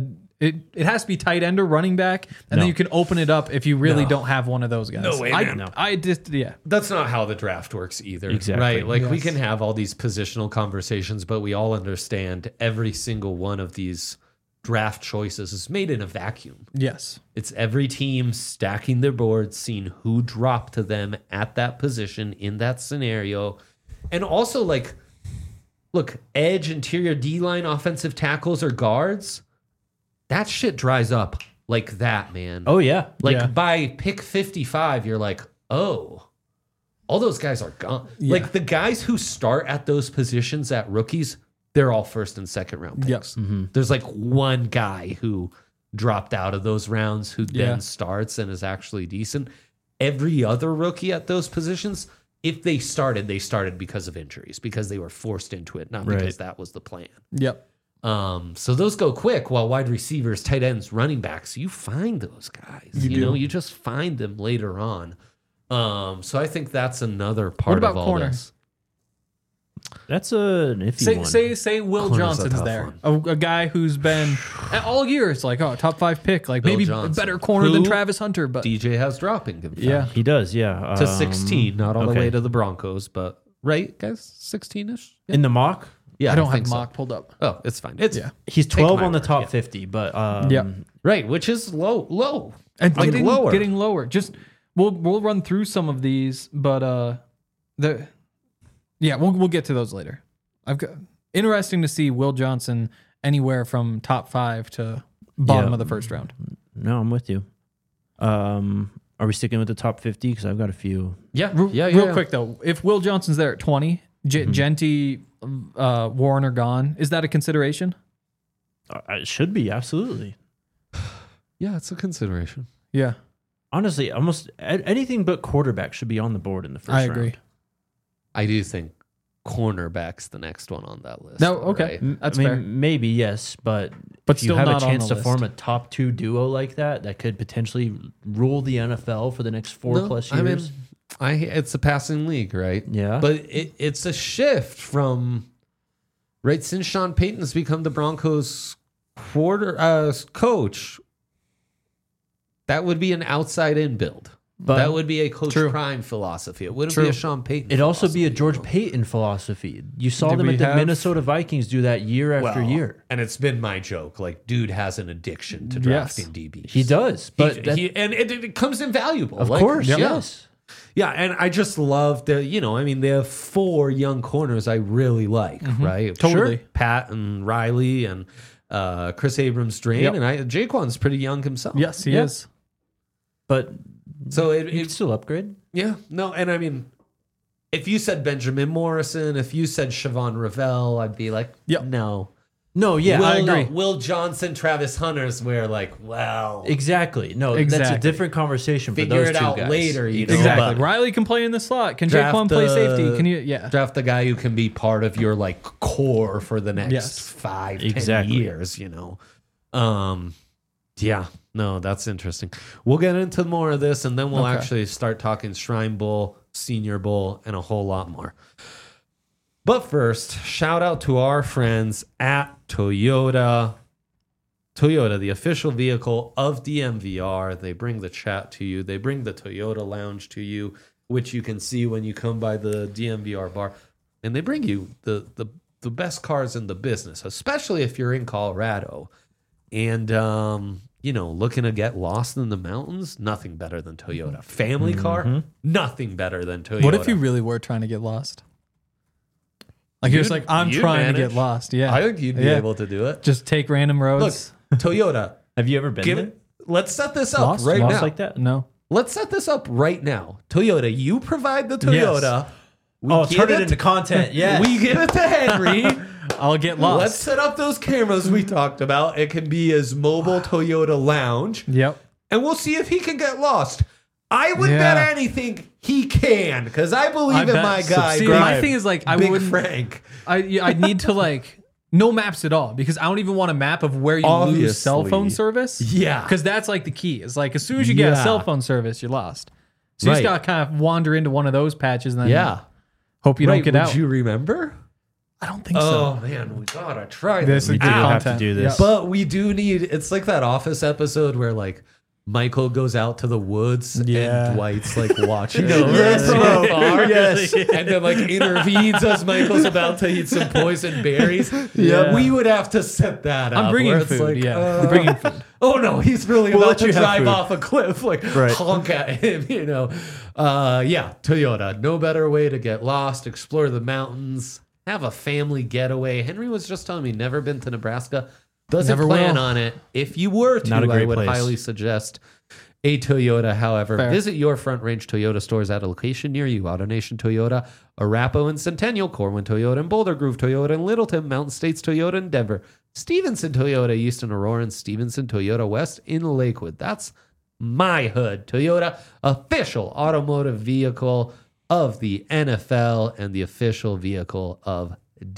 Speaker 3: it has to be tight end or running back, and then you can open it up if you really don't have one of those guys.
Speaker 1: No way, man.
Speaker 3: I just
Speaker 1: That's not how the draft works either.
Speaker 2: Exactly.
Speaker 1: Right? Like, we
Speaker 3: Yes.
Speaker 1: can have all these positional conversations, but we all understand every single one of these draft choices is made in a vacuum.
Speaker 3: yes.
Speaker 1: It's every team stacking their boards, seeing who dropped to them at that position in that scenario. And also, like, look, edge, interior D-line, offensive tackles, or guards, that shit dries up like that, man.
Speaker 2: Oh, yeah.
Speaker 1: Like,
Speaker 3: Yeah.
Speaker 1: by pick 55, you're like, oh, all those guys are gone.
Speaker 3: Yeah.
Speaker 1: Like, the guys who start at those positions at rookies, they're all first and second round picks.
Speaker 3: Yep.
Speaker 1: There's like one guy who dropped out of those rounds who
Speaker 3: Yeah.
Speaker 1: then starts and is actually decent. Every other rookie at those positions, if they started because of injuries, because they were forced into it, not because
Speaker 2: Right.
Speaker 1: that was the plan.
Speaker 3: Yep.
Speaker 1: So those go quick, while wide receivers, tight ends, running backs, you find those guys. You know, you just find them later on. So I think that's another part
Speaker 3: about
Speaker 1: of all
Speaker 3: corner?
Speaker 1: this.
Speaker 2: That's an iffy one.
Speaker 3: Say Will
Speaker 1: Corner's a
Speaker 3: Johnson's
Speaker 1: tough
Speaker 3: there,
Speaker 1: one.
Speaker 3: a guy who's been all year. It's like, oh, top 5 pick, like
Speaker 1: Bill
Speaker 3: maybe
Speaker 1: Johnson.
Speaker 3: a better corner than
Speaker 1: Who
Speaker 3: Travis Hunter, but
Speaker 1: DJ has dropping him.
Speaker 3: yeah,
Speaker 2: He does, yeah.
Speaker 1: To 16, not all the
Speaker 2: okay.
Speaker 1: way to the Broncos, but right, guys, 16-ish. Yeah,
Speaker 2: In the mock,
Speaker 1: yeah
Speaker 3: I don't
Speaker 1: think
Speaker 3: have
Speaker 1: so.
Speaker 3: mock pulled up.
Speaker 1: Oh, it's fine. It's
Speaker 3: Yeah.
Speaker 2: he's
Speaker 1: Take
Speaker 2: 12
Speaker 1: my
Speaker 2: on the
Speaker 1: word,
Speaker 2: top
Speaker 1: yeah.
Speaker 2: 50, but
Speaker 3: Yeah.
Speaker 1: right, which is low.
Speaker 3: And
Speaker 1: Like,
Speaker 3: getting lower. Just we'll run through some of these, but we'll get to those later. I've got interesting to see Will Johnson anywhere from top 5 to bottom
Speaker 2: Yeah.
Speaker 3: of the first round.
Speaker 2: no, I'm with you. Are we sticking with the top 50? Because I've got a few.
Speaker 1: Yeah,
Speaker 3: Real quick though, if Will Johnson's there at 20,
Speaker 1: Mm-hmm.
Speaker 3: Genty, Warren are gone, is that a consideration?
Speaker 2: It should be, absolutely.
Speaker 1: Yeah, it's a consideration.
Speaker 3: Yeah,
Speaker 2: Honestly, almost anything but quarterback should be on the board in the first
Speaker 3: I
Speaker 2: round.
Speaker 3: agree.
Speaker 1: I do think cornerback's the next one on that list.
Speaker 3: No,
Speaker 1: though,
Speaker 3: okay.
Speaker 1: right?
Speaker 3: That's
Speaker 2: I mean,
Speaker 3: fair.
Speaker 2: maybe, yes, but
Speaker 3: But
Speaker 2: if you
Speaker 3: still
Speaker 2: have a
Speaker 3: not on
Speaker 2: chance
Speaker 3: the
Speaker 2: to form
Speaker 3: list.
Speaker 2: a top 2 duo like that could potentially rule the NFL for the next 4+
Speaker 1: No,
Speaker 2: years.
Speaker 1: I mean, it's a passing league, right?
Speaker 2: Yeah.
Speaker 1: But it's a shift from right since Sean Payton's become the Broncos coach. That would be an outside in build.
Speaker 2: But
Speaker 1: that would be a Coach
Speaker 3: True.
Speaker 1: Prime philosophy. It wouldn't
Speaker 3: True.
Speaker 1: be a Sean Payton.
Speaker 2: It'd also be a
Speaker 1: philosophy,
Speaker 2: George
Speaker 1: you know?
Speaker 2: Payton philosophy. You saw
Speaker 3: Did
Speaker 2: them
Speaker 3: we
Speaker 2: at the
Speaker 3: have-
Speaker 2: Minnesota Vikings do that year after
Speaker 1: Well,
Speaker 2: year.
Speaker 1: and it's been my joke. Like, dude has an addiction to
Speaker 3: Yes.
Speaker 1: drafting DBs.
Speaker 2: He does, but
Speaker 1: and it comes invaluable.
Speaker 2: of
Speaker 1: Like,
Speaker 2: course,
Speaker 1: yeah.
Speaker 2: yes.
Speaker 1: Yeah, and I just love the, they have 4 young corners I really like, right?
Speaker 3: Totally.
Speaker 1: Sure. Pat and Riley and Chris Abrams-Drain,
Speaker 3: Yep.
Speaker 1: and Jaquan's pretty young himself.
Speaker 3: Yes, he
Speaker 2: Yeah.
Speaker 3: is.
Speaker 2: But
Speaker 1: So
Speaker 2: you can
Speaker 1: it
Speaker 2: still upgrade.
Speaker 1: yeah, no, and I mean, if you said Benjamin Morrison, if you said Siobhan Ravel, I'd be like,
Speaker 3: Yep.
Speaker 1: no.
Speaker 2: No, yeah,
Speaker 1: Will,
Speaker 2: I agree.
Speaker 1: Will Johnson, Travis Hunter's where like, well,
Speaker 2: Exactly. No, that's a
Speaker 3: Exactly.
Speaker 2: different conversation for
Speaker 1: figure
Speaker 2: those
Speaker 1: it
Speaker 2: two
Speaker 1: out
Speaker 2: guys.
Speaker 1: later. You know,
Speaker 3: Exactly.
Speaker 1: but
Speaker 3: Riley can play in the slot. Can
Speaker 1: Draft
Speaker 3: Jaquan play
Speaker 1: the-
Speaker 3: safety? Can you? Yeah.
Speaker 1: draft the guy who can be part of your like core for the next
Speaker 3: Yes.
Speaker 1: 5-10
Speaker 2: Exactly.
Speaker 1: years, yeah, no, that's interesting. We'll get into more of this and then we'll
Speaker 3: Okay.
Speaker 1: actually start talking Shrine Bowl, Senior Bowl, and a whole lot more. But first, shout out to our friends at Toyota. Toyota, the official vehicle of DMVR. They bring the chat to you. They bring the Toyota Lounge to you, which you can see when you come by the DMVR bar. And they bring you the best cars in the business, especially if you're in Colorado. And, looking to get lost in the mountains, nothing better than Toyota. Family car, nothing better than Toyota.
Speaker 3: What if you really were trying to get lost? Like you're just like, I'm
Speaker 1: you'd
Speaker 3: trying to
Speaker 1: manage.
Speaker 3: get lost. Yeah.
Speaker 1: I think you'd be
Speaker 3: Yeah.
Speaker 1: able to do it.
Speaker 3: Just take random
Speaker 1: Look,
Speaker 3: roads.
Speaker 1: Toyota,
Speaker 2: Have you ever been
Speaker 1: give
Speaker 2: there?
Speaker 1: it. Let's set this up
Speaker 3: Lost?
Speaker 1: right
Speaker 2: Lost
Speaker 1: now.
Speaker 2: like that?
Speaker 3: No.
Speaker 1: Let's set this up right now. Toyota, you provide the Toyota. We
Speaker 2: Oh,
Speaker 1: give
Speaker 2: turn it into content. Yeah.
Speaker 1: We give it to Henry.
Speaker 3: I'll get lost.
Speaker 1: Let's set up those cameras we talked about. It can be his mobile Toyota lounge,
Speaker 3: Yep.
Speaker 1: and we'll see if he can get lost. I would
Speaker 3: Yeah.
Speaker 1: bet anything he can, because I believe in
Speaker 3: bet.
Speaker 1: my guy.
Speaker 3: See,
Speaker 1: Big-
Speaker 3: my thing is like I
Speaker 1: Big
Speaker 3: wouldn't.
Speaker 1: Frank.
Speaker 3: I need to like no maps at all because I don't even want a map of where you lose cell
Speaker 1: Obviously.
Speaker 3: phone service.
Speaker 1: Yeah.
Speaker 3: Because that's like the key. It's like as soon as you get a
Speaker 1: Yeah.
Speaker 3: cell phone service, you're lost. So you just
Speaker 1: Right.
Speaker 3: gotta kind of wander into one of those patches and then
Speaker 1: Yeah.
Speaker 3: hope you
Speaker 1: Right,
Speaker 3: don't get
Speaker 1: would
Speaker 3: out.
Speaker 1: you remember?
Speaker 3: I don't think
Speaker 1: Oh man, we gotta try
Speaker 3: This
Speaker 1: this.
Speaker 3: is
Speaker 2: We do
Speaker 3: good
Speaker 2: have to
Speaker 3: content.
Speaker 2: do this.
Speaker 3: Yeah.
Speaker 1: But we do need. It's like that Office episode where like Michael goes out to the woods
Speaker 3: Yeah.
Speaker 1: and Dwight's like watching.
Speaker 4: Yes,
Speaker 1: from
Speaker 4: bro.
Speaker 1: afar.
Speaker 4: Yes.
Speaker 1: and then like intervenes as Michael's about to eat some poison berries.
Speaker 3: Yeah.
Speaker 1: we would have to set that up.
Speaker 3: I'm bringing
Speaker 1: where it's
Speaker 3: food.
Speaker 1: like,
Speaker 3: Yeah, I'm bringing food.
Speaker 1: Oh no, he's really
Speaker 4: We'll
Speaker 1: about
Speaker 4: let
Speaker 1: to
Speaker 4: you have
Speaker 1: drive
Speaker 4: food.
Speaker 1: off a cliff, like
Speaker 4: Right.
Speaker 1: honk at him, you know. Yeah, Toyota. No better way to get lost, explore the mountains, have a family getaway. Henry was just telling me never been to Nebraska. Doesn't
Speaker 3: Never
Speaker 1: plan
Speaker 3: will.
Speaker 1: on it. If you were to,
Speaker 2: Not a
Speaker 1: I
Speaker 2: great
Speaker 1: would
Speaker 2: place.
Speaker 1: highly suggest a Toyota. However,
Speaker 3: Fair.
Speaker 1: visit your Front Range Toyota stores at a location near you. AutoNation Toyota, Arapahoe and Centennial, Corwin Toyota and Boulder Grove Toyota and Littleton, Mountain States Toyota in Denver, Stevenson Toyota East in Aurora, and Stevenson Toyota West in Lakewood. That's my hood. Toyota, official automotive vehicle of the NFL and the official vehicle of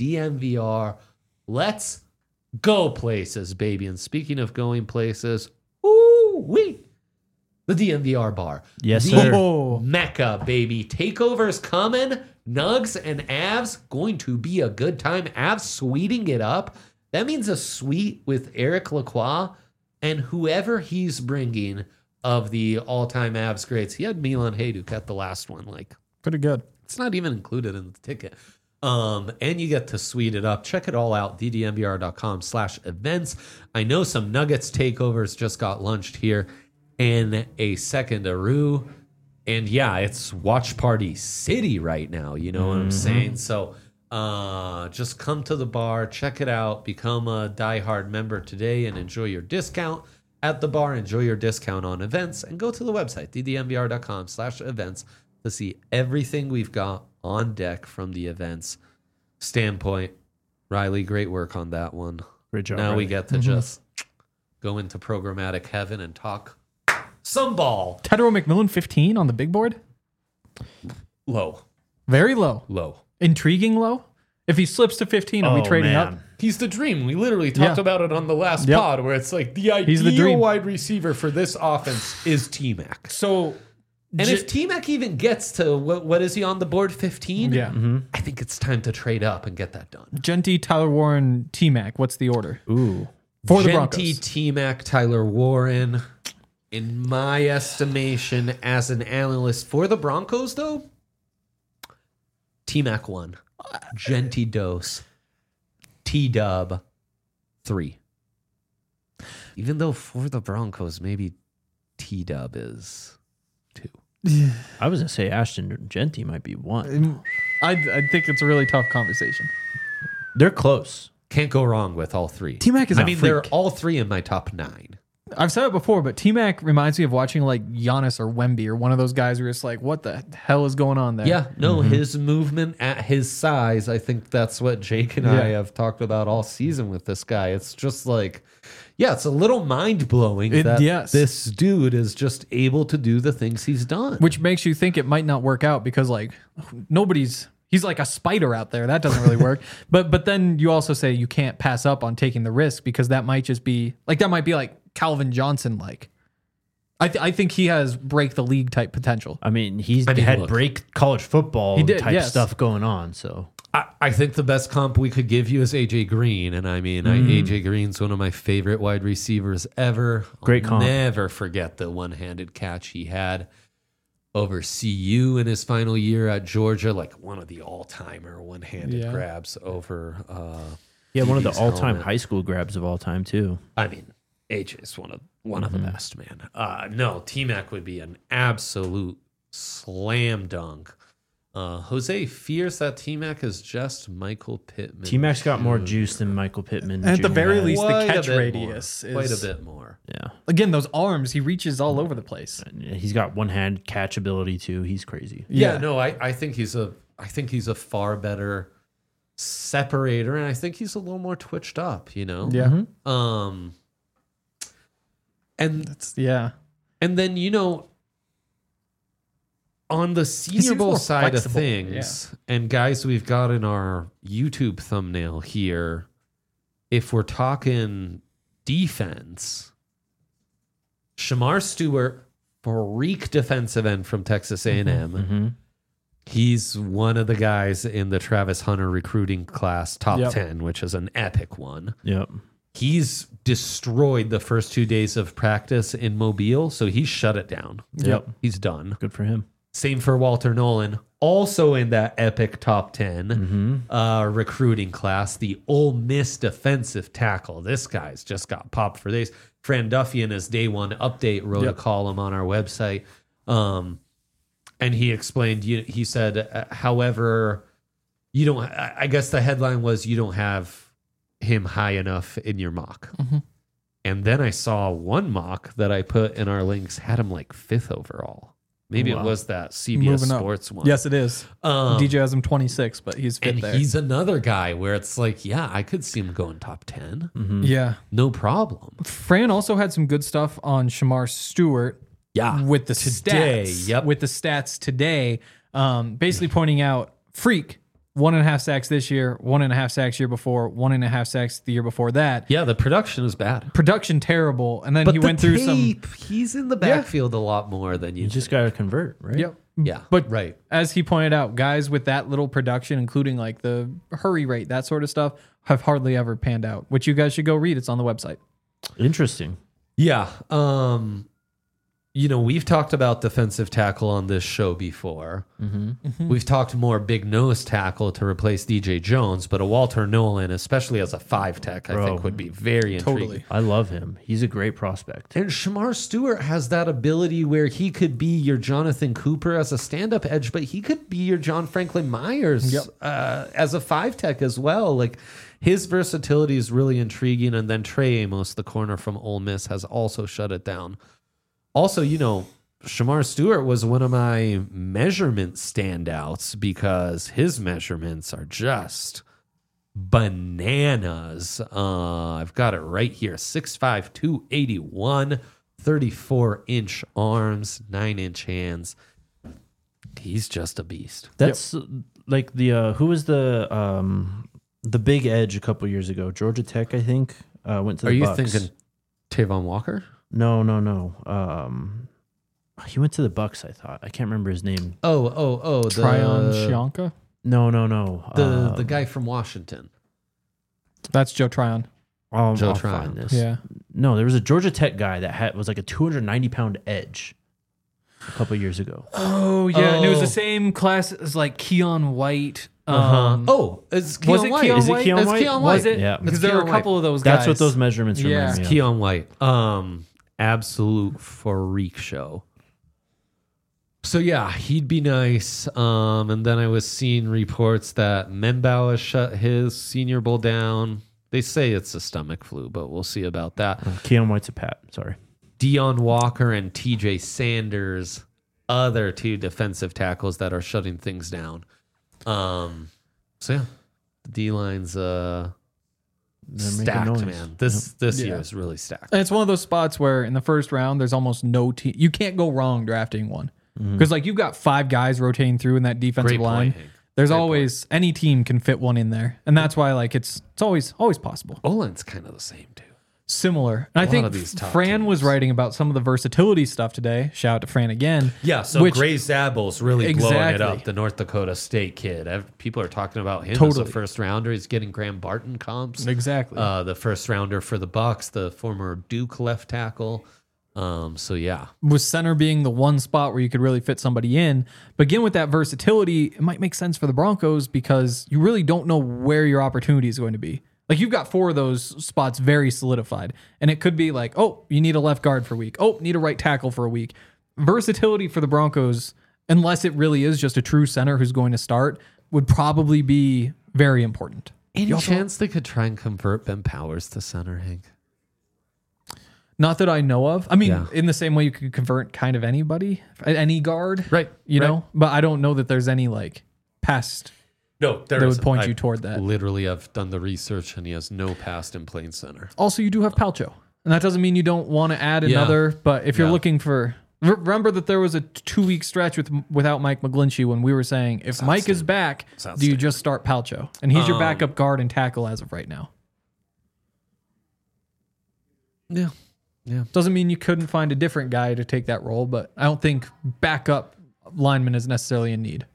Speaker 1: DMVR. Let's go places, baby. And speaking of going places, ooh-wee. The DMVR bar.
Speaker 2: Yes,
Speaker 1: The
Speaker 2: sir.
Speaker 3: Oh.
Speaker 1: Mecca, baby. Takeovers coming. Nugs and Avs going to be a good time. Avs sweeting it up. That means a suite with Eric Lacroix and whoever he's bringing of the all-time Avs greats. He had Milan Hajduk at the last one. Like,
Speaker 3: Pretty good.
Speaker 1: it's not even included in the ticket. And you get to suite it up. Check it all out. ddnvr.com/events. I know some Nuggets takeovers just got launched here in a second-aroo. And yeah, it's watch party city right now. You know what I'm saying? So just come to the bar, check it out, become a diehard member today and enjoy your discount at the bar. Enjoy your discount on events and go to the website, ddnvr.com/events to see everything we've got on deck from the events standpoint. Riley, great work on that one.
Speaker 2: Great job.
Speaker 1: Now we
Speaker 2: Riley.
Speaker 1: get to just go into programmatic heaven and talk some ball.
Speaker 3: Tedero McMillan 15 on the big board.
Speaker 1: Low.
Speaker 3: Very low.
Speaker 1: Low.
Speaker 3: Intriguing low. If he slips to 15, are we
Speaker 2: Oh,
Speaker 3: trading
Speaker 2: man.
Speaker 3: up?
Speaker 1: He's the dream. We literally talked
Speaker 3: Yeah.
Speaker 1: about it on the last
Speaker 3: Yep.
Speaker 1: pod where it's like the
Speaker 3: He's the
Speaker 1: ideal
Speaker 3: dream.
Speaker 1: wide receiver for this offense is T-Mac.
Speaker 3: So,
Speaker 1: And if T-Mac even gets to, what is he on the board, 15?
Speaker 3: yeah.
Speaker 1: I think it's time to trade up and get that done.
Speaker 3: Genty, Tyler Warren, T-Mac. What's the order?
Speaker 2: Ooh.
Speaker 3: For the
Speaker 1: Genty,
Speaker 3: Broncos.
Speaker 1: T-Mac, Tyler Warren. In my estimation, as an analyst for the Broncos, though, T-Mac 1. Genty Dose. T-Dub 3. Even though for the Broncos, maybe T-Dub is 2.
Speaker 2: I was gonna say Ashton Genty might be one.
Speaker 3: I think it's a really tough conversation.
Speaker 2: They're close.
Speaker 1: Can't go wrong with all three.
Speaker 3: T-Mac is
Speaker 1: I
Speaker 3: a
Speaker 1: mean,
Speaker 3: freak.
Speaker 1: they're all three in my top 9.
Speaker 3: I've said it before, but T-Mac reminds me of watching like Giannis or Wemby or one of those guys where it's like, what the hell is going on there?
Speaker 1: Yeah, no, his movement at his size, I think that's what Jake and I
Speaker 3: Yeah.
Speaker 1: have talked about all season with this guy. It's just like, yeah, it's a little mind-blowing
Speaker 3: It-
Speaker 1: that
Speaker 3: yes.
Speaker 1: this dude is just able to do the things he's done.
Speaker 3: Which makes you think it might not work out because like he's like a spider out there. That doesn't really work. But then you also say you can't pass up on taking the risk because that might just be like Calvin Johnson like. I think he has break the league type potential.
Speaker 2: I mean, he's
Speaker 1: I mean,
Speaker 2: had
Speaker 1: look.
Speaker 2: break college football
Speaker 3: He did,
Speaker 2: type
Speaker 3: yes.
Speaker 2: stuff going on. So
Speaker 1: I think the best comp we could give you is AJ Green, and I mean, AJ Green's one of my favorite wide receivers ever.
Speaker 2: Great
Speaker 1: I'll
Speaker 2: comp.
Speaker 1: Never forget the one-handed catch he had over CU in his final year at Georgia, like one of the all-timer one-handed
Speaker 3: Yeah.
Speaker 1: grabs over.
Speaker 2: yeah, one of the
Speaker 1: Hughes
Speaker 2: all-time
Speaker 1: helmet.
Speaker 2: high school grabs of all time too.
Speaker 1: I mean, AJ's one of the best, man. No, T-Mac would be an absolute slam dunk. Jose fears that T-Mac is just Michael Pittman.
Speaker 2: T-Mac's got more juice than Michael Pittman.
Speaker 3: And at the
Speaker 2: Jr.
Speaker 3: very
Speaker 2: has.
Speaker 3: least, the
Speaker 1: Quite a
Speaker 3: catch
Speaker 1: bit
Speaker 3: radius
Speaker 1: more.
Speaker 3: is
Speaker 1: Quite a bit more.
Speaker 2: Yeah,
Speaker 3: Again, those arms, he reaches all over the place.
Speaker 2: he's got one-hand catch ability too. He's crazy.
Speaker 1: Yeah,
Speaker 3: Yeah.
Speaker 1: no, I think he's a far better separator, and I think he's a little more twitched up, you know?
Speaker 3: Yeah.
Speaker 1: And
Speaker 3: Yeah.
Speaker 1: and then, you know, on the Senior
Speaker 3: seems
Speaker 1: Bowl
Speaker 3: more
Speaker 1: side of
Speaker 3: flexible,
Speaker 1: things, and guys, we've got in our YouTube thumbnail here, if we're talking defense, Shamar Stewart, freak defensive end from Texas A&M. He's one of the guys in the Travis Hunter recruiting class, top 10, which is an epic one.
Speaker 2: Yep.
Speaker 1: He's destroyed the first 2 days of practice in Mobile, so he's shut it down.
Speaker 2: Yep.
Speaker 1: He's done.
Speaker 2: Good for him.
Speaker 1: Same for Walter Nolan, also in that epic top 10 recruiting class, the Ole Miss defensive tackle. This guy's just got popped for days. Fran Duffy in his day one update wrote a column on our website. And he explained, he said, however, you don't, I guess the headline was, you don't have him high enough in your mock. And then I saw one mock that I put in our links had him like 5th overall. Maybe it was that CBS
Speaker 3: Moving up.
Speaker 1: Sports one.
Speaker 3: Yes, it is. DJ has him 26, but he's 5th
Speaker 1: And
Speaker 3: there.
Speaker 1: he's another guy where it's like, yeah, I could see him going top 10.
Speaker 3: Yeah.
Speaker 1: No problem.
Speaker 3: Fran also had some good stuff on Shamar Stewart.
Speaker 1: Yeah.
Speaker 3: With the
Speaker 1: Today,
Speaker 3: stats.
Speaker 1: yep.
Speaker 3: With the stats today. Basically pointing out freak. 1.5 sacks this year, 1.5 sacks year before, 1.5 sacks the year before that.
Speaker 1: Yeah, the production is bad.
Speaker 3: Production terrible. And then
Speaker 1: But
Speaker 3: he
Speaker 1: the
Speaker 3: went through some.
Speaker 1: tape, he's in the backfield a lot more than you
Speaker 2: You just got to convert, right?
Speaker 3: Yep.
Speaker 1: Yeah,
Speaker 3: But
Speaker 1: right.
Speaker 3: as he pointed out, guys with that little production, including like the hurry rate, that sort of stuff, have hardly ever panned out, which you guys should go read. It's on the website.
Speaker 2: Interesting.
Speaker 1: Yeah. You know, we've talked about defensive tackle on this show before. We've talked more big nose tackle to replace DJ Jones, but a Walter Nolan, especially as a 5 tech, I think would be very intriguing.
Speaker 3: Totally.
Speaker 2: I love him. He's a great prospect.
Speaker 1: And Shamar Stewart has that ability where he could be your Jonathan Cooper as a stand-up edge, but he could be your John Franklin Myers as a 5 tech as well. Like, his versatility is really intriguing. And then Trey Amos, the corner from Ole Miss, has also shut it down. Also, you know, Shamar Stewart was one of my measurement standouts because his measurements are just bananas. I've got it right here. 6'5", 281, 34-inch arms, 9-inch hands. He's just a beast.
Speaker 2: That's like the who was the big edge a couple years ago? Georgia Tech, I think, went to the Bucks.
Speaker 1: Are you thinking Tavon Walker?
Speaker 2: No. He went to the Bucks, I thought. I can't remember his name.
Speaker 1: Oh,
Speaker 3: Tryon Shionka?
Speaker 2: No.
Speaker 1: The guy from Washington.
Speaker 3: That's Joe Tryon.
Speaker 2: I'll
Speaker 1: Joe
Speaker 2: find
Speaker 1: Tryon.
Speaker 2: this.
Speaker 3: Yeah.
Speaker 2: No, there was a Georgia Tech guy that was like a 290-pound edge a couple years ago.
Speaker 3: Oh, yeah. And it was the same class as like Keon White.
Speaker 1: It's Keon
Speaker 3: was it
Speaker 1: White.
Speaker 3: Keon
Speaker 2: Is it
Speaker 3: White?
Speaker 2: Keon
Speaker 1: It's
Speaker 2: White?
Speaker 1: Keon White.
Speaker 3: Was it?
Speaker 2: Yeah.
Speaker 3: Because
Speaker 1: It's
Speaker 3: there were a
Speaker 1: Keon
Speaker 3: couple of those guys.
Speaker 2: That's what those measurements
Speaker 3: Yeah.
Speaker 2: remind me
Speaker 1: It's
Speaker 2: of.
Speaker 1: Keon White. Absolute freak show. So yeah, he'd be nice. And then I was seeing reports that Menbau has shut his Senior Bowl down. They say it's a stomach flu, but we'll see about that.
Speaker 2: Keon White's a Pat. Sorry.
Speaker 1: Deion Walker and TJ Sanders, other 2 defensive tackles that are shutting things down. So yeah, the D-line's stacked,
Speaker 2: noise.
Speaker 1: man. This year is really stacked.
Speaker 3: And it's one of those spots where in the first round, there's almost no team. You can't go wrong drafting one. Because like you've got 5 guys rotating through in that defensive
Speaker 1: Great
Speaker 3: line.
Speaker 1: point, Hank.
Speaker 3: There's always any team can fit one in there, and that's why like it's always possible.
Speaker 1: Olin's kind of the same too.
Speaker 3: Similar. And I
Speaker 1: lot
Speaker 3: think
Speaker 1: of these top
Speaker 3: Fran
Speaker 1: teams.
Speaker 3: was writing about some of the versatility stuff today. Shout out to Fran again.
Speaker 1: Yeah, so
Speaker 3: Which-
Speaker 1: Gray Zabble's really blowing it
Speaker 3: Exactly.
Speaker 1: up, the North Dakota State kid. People are talking about him as
Speaker 3: Totally.
Speaker 1: a first rounder. He's getting Graham Barton comps.
Speaker 3: Exactly.
Speaker 1: The first rounder for the Bucks, the former Duke left tackle. So yeah.
Speaker 3: With center being the one spot where you could really fit somebody in. But again, with that versatility, it might make sense for the Broncos because you really don't know where your opportunity is going to be. Like you've got 4 of those spots very solidified. And it could be like, oh, you need a left guard for a week. Oh, need a right tackle for a week. Versatility for the Broncos, unless it really is just a true center who's going to start, would probably be very important.
Speaker 1: Any chance they could try and convert Ben Powers to center, Hank?
Speaker 3: Not that I know of. I mean,
Speaker 1: Yeah.
Speaker 3: in the same way you could convert kind of anybody, any guard.
Speaker 1: Right.
Speaker 3: You
Speaker 1: right.
Speaker 3: know, but I don't know that there's any like past
Speaker 1: No,
Speaker 3: that would
Speaker 1: isn't.
Speaker 3: point
Speaker 1: I
Speaker 3: you toward that.
Speaker 1: Literally, I've done the research, and he has no past in playing center.
Speaker 3: Also, you do have Palcho. And that doesn't mean you don't want to add
Speaker 1: Yeah.
Speaker 3: another, but if you're
Speaker 1: Yeah.
Speaker 3: looking for... Remember that there was a 2-week stretch without Mike McGlinchey when we were saying, if Mike is back, do you just start Palcho? And he's your backup guard and tackle as of right now.
Speaker 1: Yeah.
Speaker 3: Doesn't mean you couldn't find a different guy to take that role, but I don't think backup lineman is necessarily in need.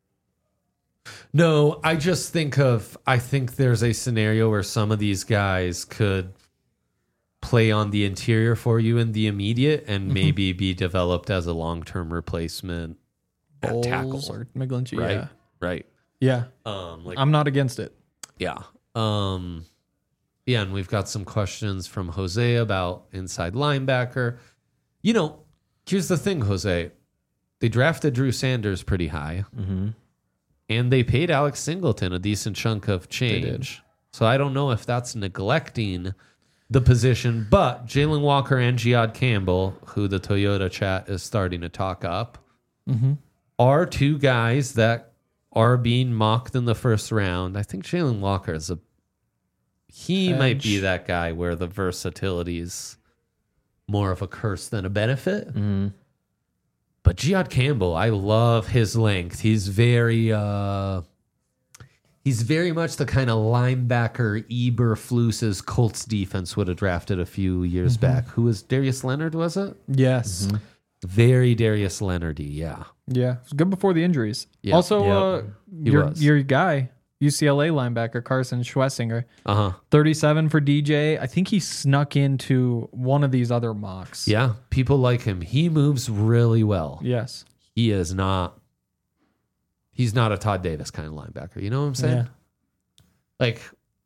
Speaker 1: No, I think there's a scenario where some of these guys could play on the interior for you in the immediate and maybe be developed as a long-term replacement at tackle.
Speaker 3: Bowles or McGlinchey,
Speaker 1: Right.
Speaker 3: yeah.
Speaker 1: Right.
Speaker 3: Yeah, I'm not against it.
Speaker 1: Yeah. Yeah, and we've got some questions from Jose about inside linebacker. You know, here's the thing, Jose. They drafted Drew Sanders pretty high.
Speaker 2: Mm-hmm.
Speaker 1: And they paid Alex Singleton a decent chunk of change. So I don't know if that's neglecting the position, but Jalen Walker and Giad Campbell, who the Toyota chat is starting to talk up, are two guys that are being mocked in the first round. I think Jalen Walker is he might be that guy where the versatility is more of a curse than a benefit.
Speaker 2: Mm-hmm.
Speaker 1: But Giad Campbell, I love his length. He's very much the kind of linebacker Eberflus's Colts defense would have drafted a few years back. Who was Darius Leonard, was it?
Speaker 3: Yes.
Speaker 1: Very Darius Leonardy, yeah.
Speaker 3: Yeah. It was good before the injuries.
Speaker 1: Yeah.
Speaker 3: Also,
Speaker 1: He was.
Speaker 3: your guy, UCLA linebacker Carson Schwessinger, 37 for DJ. I think he snuck into one of these other mocks.
Speaker 1: Yeah, people like him. He moves really well.
Speaker 3: Yes.
Speaker 1: He's not a Todd Davis kind of linebacker. You know what I'm saying?
Speaker 3: Yeah.
Speaker 1: Like,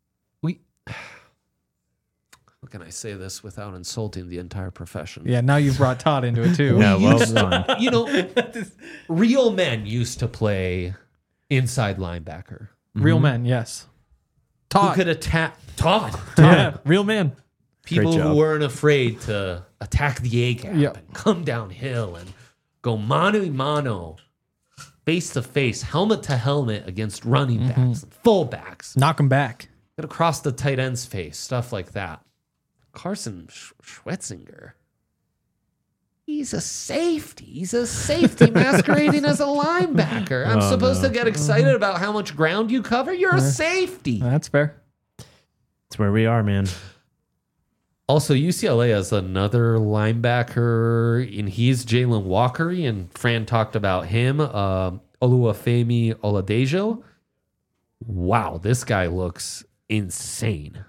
Speaker 1: how can I say this without insulting the entire profession?
Speaker 3: Yeah, now you've brought Todd into it too.
Speaker 2: Yeah, well done.
Speaker 1: You know, real men used to play inside linebacker.
Speaker 3: Real men, yes.
Speaker 1: Who
Speaker 3: Todd.
Speaker 1: could attack Todd.
Speaker 3: Yeah, real man.
Speaker 1: People
Speaker 2: Great
Speaker 1: who
Speaker 2: job.
Speaker 1: weren't afraid to attack the A gap
Speaker 3: Yep.
Speaker 1: and come downhill and go mano a mano, face to face, helmet to helmet against running backs and fullbacks.
Speaker 3: Knock him back.
Speaker 1: Get across the tight end's face, stuff like that. Carson Schwetzinger. He's a safety. He's a safety masquerading as a linebacker. I'm supposed to get excited about how much ground you cover. You're a safety.
Speaker 3: That's fair.
Speaker 2: That's where we are, man.
Speaker 1: Also, UCLA has another linebacker, and he's Jalen Walker, and Fran talked about him, Oluwafemi Oladejo. Wow, this guy looks insane.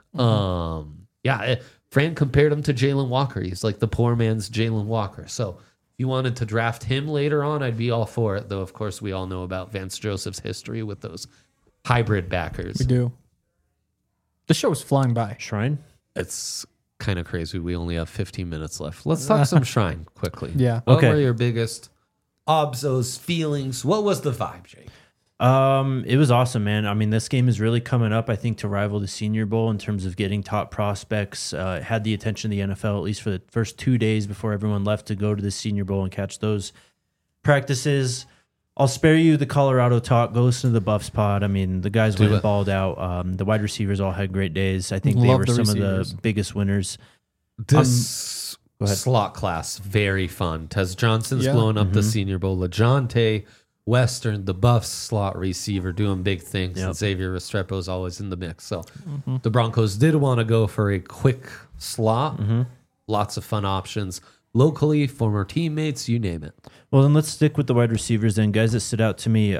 Speaker 1: Fran compared him to Jalen Walker. He's like the poor man's Jalen Walker. So if you wanted to draft him later on, I'd be all for it, though, of course, we all know about Vance Joseph's history with those hybrid backers.
Speaker 3: We do. The show is flying by.
Speaker 2: Shrine?
Speaker 1: It's kind of crazy. We only have 15 minutes left. Let's talk some Shrine quickly.
Speaker 3: Yeah.
Speaker 1: What
Speaker 2: Okay.
Speaker 1: were your biggest obsos, feelings? What was the vibe, Jake?
Speaker 2: It was awesome, man. I mean, this game is really coming up, I think, to rival the Senior Bowl in terms of getting top prospects. It had the attention of the NFL, at least for the first 2 days before everyone left to go to the Senior Bowl and catch those practices. I'll spare you the Colorado talk. Go listen to the Buffs pod. I mean, the guys went and balled out. The wide receivers all had great days. I think they
Speaker 3: Love
Speaker 2: were
Speaker 3: the
Speaker 2: some of
Speaker 3: receivers.
Speaker 2: the biggest winners.
Speaker 1: This
Speaker 2: go ahead.
Speaker 1: slot class, very fun. Tez Johnson's
Speaker 3: Yeah.
Speaker 1: blowing up the Senior Bowl. LeJounte Western, the Buffs slot receiver, doing big things.
Speaker 2: Yep.
Speaker 1: And Xavier Restrepo's always in the mix. So the Broncos did want to go for a quick slot. Lots of fun options. Locally, former teammates, you name it.
Speaker 2: Well, then let's stick with the wide receivers then. Guys that stood out to me.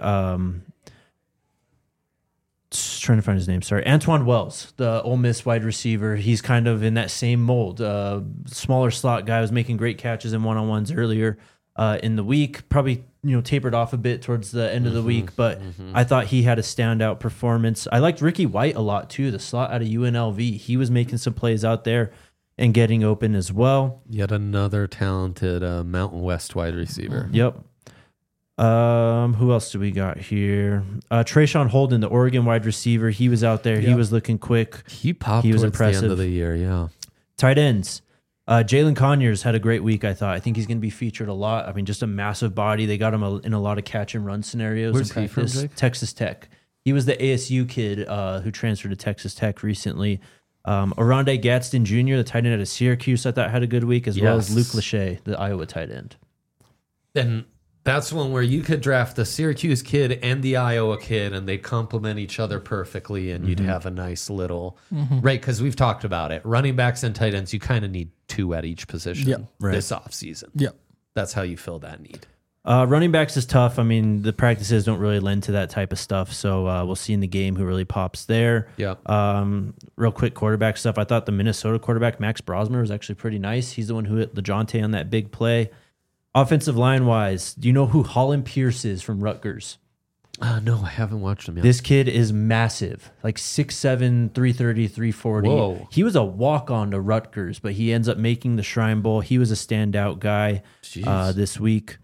Speaker 2: Just trying to find his name. Sorry. Antoine Wells, the Ole Miss wide receiver. He's kind of in that same mold. Smaller slot guy, was making great catches in one-on-ones earlier in the week. Probably, tapered off a bit towards the end of the week, but I thought he had a standout performance. I liked Ricky White a lot too, the slot out of UNLV. He was making some plays out there and getting open as well.
Speaker 1: Yet another talented Mountain West wide receiver.
Speaker 2: Yep. Who else do we got here? Trayshawn Holden, the Oregon wide receiver. He was out there. He
Speaker 3: Yep.
Speaker 2: was looking quick.
Speaker 1: He popped
Speaker 2: He was
Speaker 1: towards the
Speaker 2: impressive.
Speaker 1: end of the year, yeah.
Speaker 2: Tight ends. Jalen Conyers had a great week, I thought. I think he's going to be featured a lot. I mean, just a massive body. They got him in a lot of catch and run scenarios
Speaker 1: Where's
Speaker 2: in
Speaker 1: he from,
Speaker 2: practice.
Speaker 1: Jake?
Speaker 2: Texas Tech. He was the ASU kid who transferred to Texas Tech recently. Oronde Gadsden Jr., the tight end out of Syracuse, I thought had a good week, as well as Luke Lachey, the Iowa tight end.
Speaker 1: And that's one where you could draft the Syracuse kid and the Iowa kid, and they complement each other perfectly, and you'd have a nice little right. Because we've talked about it, running backs and tight ends, you kind of need 2 at each position this offseason.
Speaker 3: Yep.
Speaker 1: That's how you fill that need.
Speaker 2: Running backs is tough. I mean, the practices don't really lend to that type of stuff, so we'll see in the game who really pops there.
Speaker 1: Yep.
Speaker 2: Real quick quarterback stuff. I thought the Minnesota quarterback, Max Brosmer, was actually pretty nice. He's the one who hit LeJounte on that big play. Offensive line-wise, do you know who Holland Pierce is from Rutgers?
Speaker 1: No, I haven't watched him yet.
Speaker 2: This kid is massive, like 6'7", 330, 340.
Speaker 1: Whoa.
Speaker 2: He was a walk-on to Rutgers, but he ends up making the Shrine Bowl. He was a standout guy this week.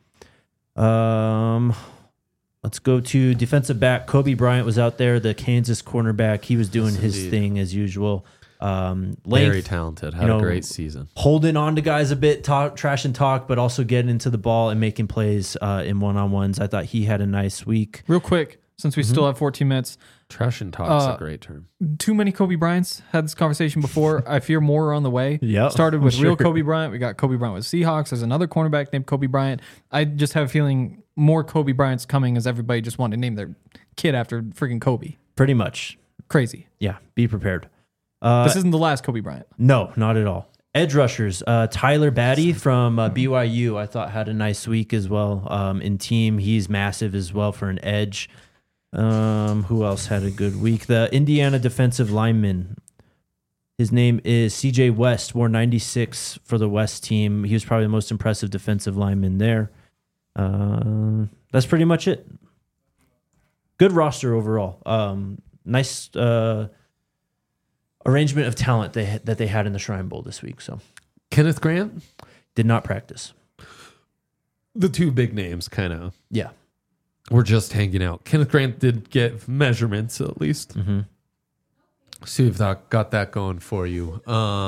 Speaker 2: Let's go to defensive back. Kobe Bryant was out there, the Kansas cornerback. He was doing his thing as usual.
Speaker 1: Very talented. Had a great season.
Speaker 2: Holding on to guys a bit, trash and talk, but also getting into the ball and making plays in one-on-ones. I thought he had a nice week.
Speaker 3: Real quick, since we still have 14 minutes.
Speaker 1: Trash and talk's a great term.
Speaker 3: Too many Kobe Bryants. Had this conversation before. I fear more are on the way.
Speaker 2: Yep,
Speaker 3: Started with real Kobe Bryant. We got Kobe Bryant with Seahawks. There's another cornerback named Kobe Bryant. I just have a feeling more Kobe Bryant's coming as everybody just wanted to name their kid after freaking Kobe.
Speaker 2: Pretty much.
Speaker 3: Crazy.
Speaker 2: Yeah, be prepared.
Speaker 3: This isn't the last Kobe Bryant.
Speaker 2: No, not at all. Edge rushers. Tyler Batty from BYU, I thought had a nice week as well. In team, he's massive as well for an edge. Who else had a good week? The Indiana defensive lineman. His name is CJ West, wore 96 for the West team. He was probably the most impressive defensive lineman there. That's pretty much it. Good roster overall. Nice arrangement of talent that they had in the Shrine Bowl this week. So
Speaker 1: Kenneth Grant
Speaker 2: did not practice.
Speaker 1: The 2 big names kind of
Speaker 2: Yeah.
Speaker 1: were just hanging out. Kenneth Grant did get measurements at least.
Speaker 2: Mm-hmm.
Speaker 1: See if that got that going for you.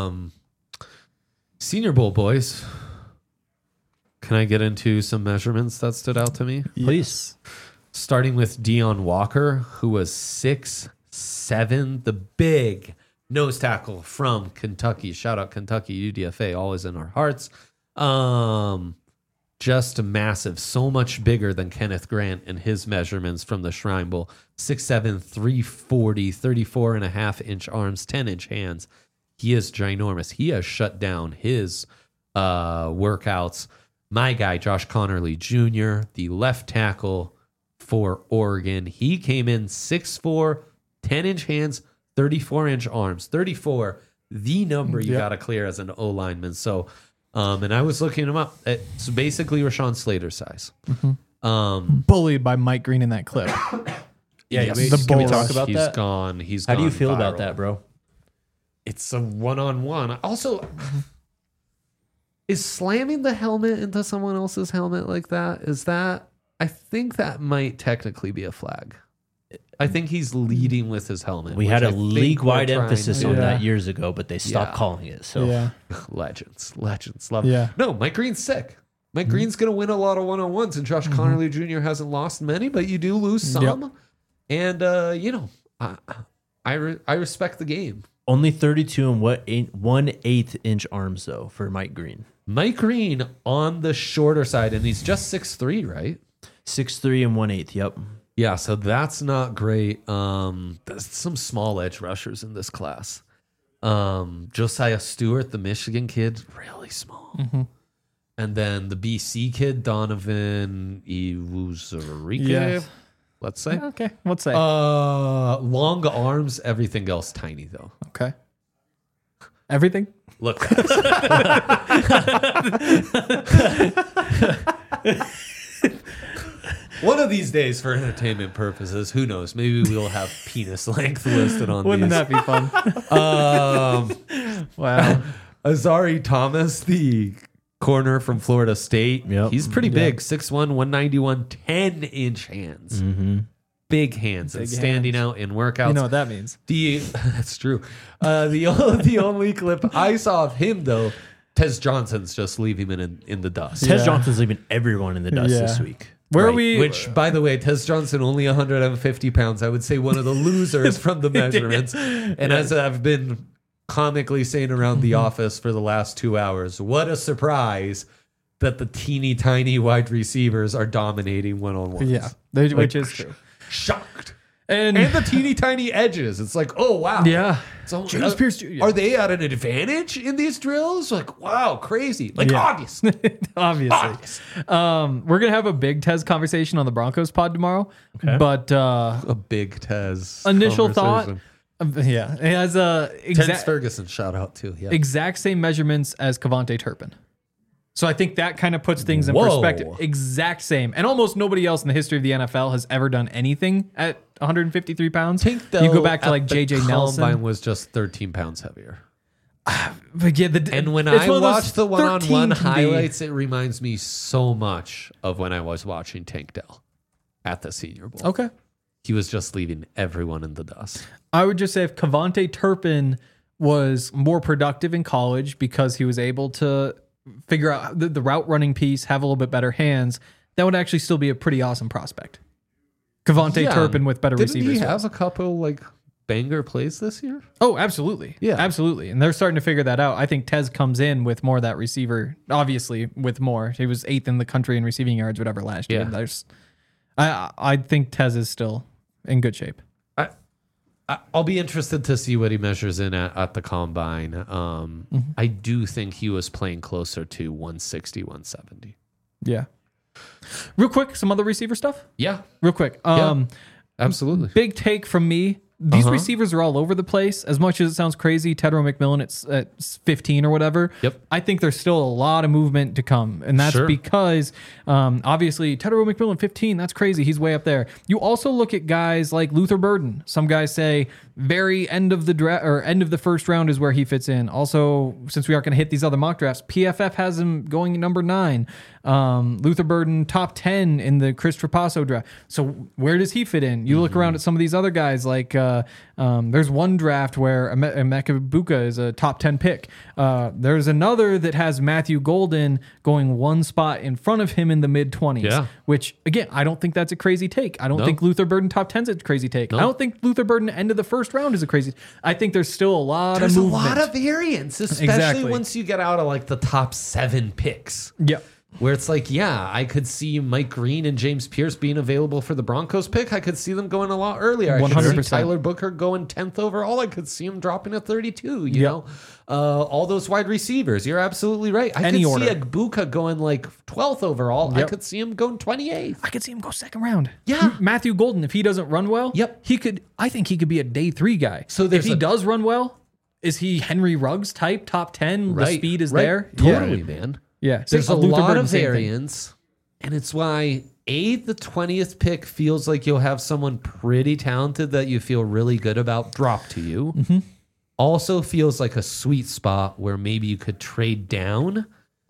Speaker 1: Senior Bowl boys. Can I get into some measurements that stood out to me?
Speaker 2: Please.
Speaker 1: Starting with Deion Walker, who was 6'7", the big nose tackle from Kentucky. Shout out Kentucky, UDFA, always in our hearts. Just massive, so much bigger than Kenneth Grant in his measurements from the Shrine Bowl. 6'7", 340, 34.5-inch arms, 10-inch hands. He is ginormous. He has shut down his workouts. My guy, Josh Connerly Jr., the left tackle for Oregon. He came in 6'4", 10-inch hands, 34-inch arms. 34, the number you got to clear as an O-lineman. So, and I was looking him up. It's basically Rashawn Slater's size.
Speaker 3: Bullied by Mike Green in that clip.
Speaker 2: Yeah,
Speaker 3: can we
Speaker 2: talk about
Speaker 1: He's
Speaker 2: that?
Speaker 1: gone. He's
Speaker 2: How do you
Speaker 1: gone
Speaker 2: feel
Speaker 1: viral.
Speaker 2: about that, bro?
Speaker 1: It's a one-on-one. Also, is slamming the helmet into someone else's helmet like that, is that... I think that might technically be a flag. I think he's leading with his helmet.
Speaker 2: We had
Speaker 1: which
Speaker 2: a
Speaker 1: I think
Speaker 2: league-wide
Speaker 1: we're trying
Speaker 2: emphasis
Speaker 1: to-
Speaker 2: on that years ago, but they stopped
Speaker 1: Yeah.
Speaker 2: calling it. So
Speaker 1: Legends. Love it.
Speaker 3: Yeah.
Speaker 1: No, Mike Green's sick. Mike Green's going to win a lot of one-on-ones, and Josh Connerly Jr. hasn't lost many, but you do lose some. And, I respect the game.
Speaker 2: only 32 and 1/8 inch arms, though, for Mike Green.
Speaker 1: Mike Green on the shorter side, and he's just 6'3", right?
Speaker 2: 6'3 and 1/8, yep.
Speaker 1: Yeah, so that's not great. There's some small edge rushers in this class. Josiah Stewart, the Michigan kid, really small. And then the BC kid, Donovan Iwuzurike,
Speaker 3: Yes.
Speaker 1: let's say.
Speaker 3: Okay. What's that?
Speaker 1: Long arms, everything else tiny, though.
Speaker 3: Okay. Everything?
Speaker 1: Look. One of these days, for entertainment purposes, who knows? Maybe we'll have penis length listed on
Speaker 3: Wouldn't
Speaker 1: these.
Speaker 3: that be fun? Wow.
Speaker 1: Azari Thomas, the corner from Florida State.
Speaker 2: Yep.
Speaker 1: He's pretty big. 6'1", 191, 10-inch hands. Big hands and standing out in workouts.
Speaker 3: You know what that means.
Speaker 1: That's true. The only clip I saw of him, though, Tez Johnson's just leaving him in the dust.
Speaker 2: Tez Johnson's leaving everyone in the dust this week.
Speaker 3: Where are
Speaker 1: Right.
Speaker 3: we?
Speaker 1: Which, by the way, Tez Johnson only 150 pounds. I would say one of the losers from the measurements. And as I've been comically saying around the office for the last 2 hours, what a surprise that the teeny tiny wide receivers are dominating one-on-ones.
Speaker 3: Yeah, which is true.
Speaker 1: Shocked.
Speaker 3: And
Speaker 1: the teeny tiny edges. It's like, oh, wow.
Speaker 3: yeah,
Speaker 1: So,
Speaker 3: James Pierce Jr.
Speaker 1: Are they at an advantage in these drills? Like, wow, crazy. Like,
Speaker 3: Yeah.
Speaker 1: obviously.
Speaker 3: obviously. We're gonna have a big Tez conversation on the Broncos pod tomorrow.
Speaker 2: Okay.
Speaker 3: But
Speaker 1: A big Tez.
Speaker 3: initial thought,
Speaker 1: conversation.
Speaker 3: yeah, it has a
Speaker 1: Tez Ferguson shout out too. Yeah.
Speaker 3: exact same measurements as Cavante Turpin. So I think that kind of puts things in
Speaker 1: Whoa.
Speaker 3: perspective. Exact same. And almost nobody else in the history of the NFL has ever done anything at 153 pounds. You go back to like JJ Nelson.
Speaker 1: Combine was just 13 pounds heavier.
Speaker 3: But yeah,
Speaker 1: And when
Speaker 3: it's
Speaker 1: I
Speaker 3: one of those
Speaker 1: watch the
Speaker 3: 13
Speaker 1: one-on-one
Speaker 3: can be-
Speaker 1: highlights, it reminds me so much of when I was watching Tank Dell at the Senior Bowl.
Speaker 3: Okay.
Speaker 1: He was just leaving everyone in the dust.
Speaker 3: I would just say if Cavante Turpin was more productive in college because he was able to figure out the route running piece, have a little bit better hands, that would actually still be a pretty awesome prospect. Cavante Turpin with better
Speaker 1: Didn't
Speaker 3: receivers.
Speaker 1: he have a couple like banger plays this year?
Speaker 3: Oh, absolutely.
Speaker 1: Yeah.
Speaker 3: Absolutely. And they're starting to figure that out. I think Tez comes in with more of that receiver, obviously with more. He was 8th in the country in receiving yards, whatever, last year. I think Tez is still in good shape.
Speaker 1: I'll be interested to see what he measures in at the combine. I do think he was playing closer to 160, 170.
Speaker 3: Yeah. Real quick, some other receiver stuff.
Speaker 1: Yeah,
Speaker 3: Real quick.
Speaker 1: absolutely.
Speaker 3: Big take from me. These receivers are all over the place. As much as it sounds crazy, Tedro McMillan at 15 or whatever.
Speaker 1: Yep.
Speaker 3: I think there's still a lot of movement to come. And that's
Speaker 1: Sure.
Speaker 3: because obviously Tedro McMillan 15, that's crazy. He's way up there. You also look at guys like Luther Burden. Some guys say very end of the draft or end of the first round is where he fits in. Also, since we aren't going to hit these other mock drafts, PFF has him going number 9. Luther Burden top 10 in the Chris Trapasso draft. So where does he fit in? You look around at some of these other guys like there's one draft where Emeka Buka is a top 10 pick. There's another that has Matthew Golden going one spot in front of him in the mid 20s.
Speaker 1: Yeah.
Speaker 3: Which again, I don't think that's a crazy take. I don't
Speaker 1: No.
Speaker 3: think Luther Burden top 10 is a crazy take. I don't think Luther Burden end of the first round is a crazy. I think there's still a lot
Speaker 1: There's
Speaker 3: of
Speaker 1: a
Speaker 3: movement.
Speaker 1: lot of variance, especially
Speaker 3: Exactly.
Speaker 1: once you get out of like the top 7 picks.
Speaker 3: Yep.
Speaker 1: Where it's like, yeah, I could see Mike Green and James Pierce being available for the Broncos pick. I could see them going a lot earlier. I could
Speaker 3: 100%.
Speaker 1: see Tyler Booker going 10th overall. I could see him dropping at 32, you know? All those wide receivers. You're absolutely right. I
Speaker 3: Any
Speaker 1: could
Speaker 3: order.
Speaker 1: see Buka going like 12th overall. I
Speaker 3: Yep.
Speaker 1: could see him going 28th.
Speaker 3: I could see him go second round.
Speaker 1: Yeah.
Speaker 3: Matthew Golden, if he doesn't run well,
Speaker 1: Yep.
Speaker 3: I think he could be a day 3 guy.
Speaker 1: So
Speaker 3: if
Speaker 1: there's
Speaker 3: he
Speaker 1: a-
Speaker 3: does run well, is he Henry Ruggs type, top 10? The speed is there.
Speaker 1: Totally, man.
Speaker 3: Yeah.
Speaker 1: There's a
Speaker 3: Luther
Speaker 1: lot
Speaker 3: Burden,
Speaker 1: of
Speaker 3: same thing.
Speaker 1: variance, and it's why the 20th pick feels like you'll have someone pretty talented that you feel really good about drop to you. Also feels like a sweet spot where maybe you could trade down,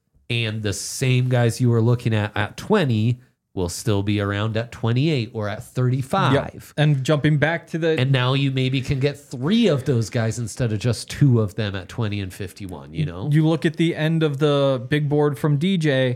Speaker 1: and the same guys you were looking at 20 will still be around at 28 or at 35.
Speaker 3: Yep. And jumping back to the
Speaker 1: And now you maybe can get 3 of those guys instead of just 2 of them at 20 and 51, you know?
Speaker 3: you look at the end of the big board from DJ,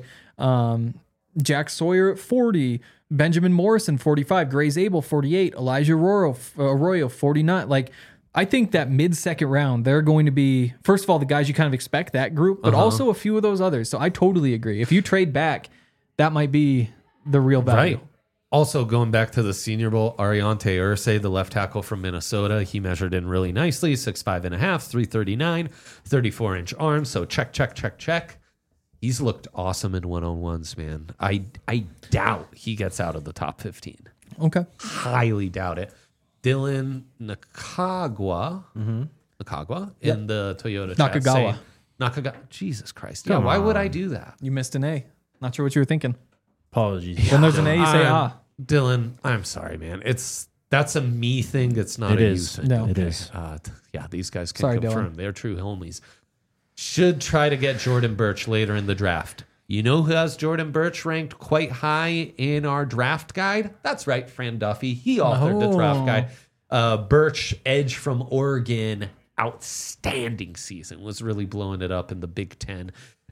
Speaker 3: Jack Sawyer at 40, Benjamin Morrison 45, Gray Zabel 48, Elijah Arroyo 49. Like, I think that mid-second round, they're going to be, first of all, the guys you kind of expect, that group, but also a few of those others. So I totally agree. If you trade back, that might be the real value.
Speaker 1: Right. Also, going back to the Senior Bowl, Ariante Ursay, the left tackle from Minnesota, he measured in really nicely, 6'5 and a half, 339, 34-inch arms. So check. He's looked awesome in one-on-ones, man. I doubt he gets out of the top 15.
Speaker 3: Okay.
Speaker 1: Highly doubt it. Dylan Nakagawa in the Toyota chat
Speaker 3: Nakagawa.
Speaker 1: saying- Nakagawa. Jesus Christ. Yeah, why would I do that?
Speaker 3: You missed an A. Not sure what you were thinking.
Speaker 2: Apologies.
Speaker 3: When there's an A, you say
Speaker 1: Dylan, I'm sorry, man. That's a me thing. It's not
Speaker 2: It
Speaker 1: a
Speaker 2: is.
Speaker 1: you thing.
Speaker 3: No.
Speaker 2: It is.
Speaker 1: Yeah, these guys can
Speaker 3: Sorry,
Speaker 1: confirm.
Speaker 3: Dylan.
Speaker 1: They're true homies. Should try to get Jordan Birch later in the draft. You know who has Jordan Birch ranked quite high in our draft guide? That's right, Fran Duffy. He authored the draft guide. Birch, edge from Oregon, outstanding season. Was really blowing it up in the Big Ten.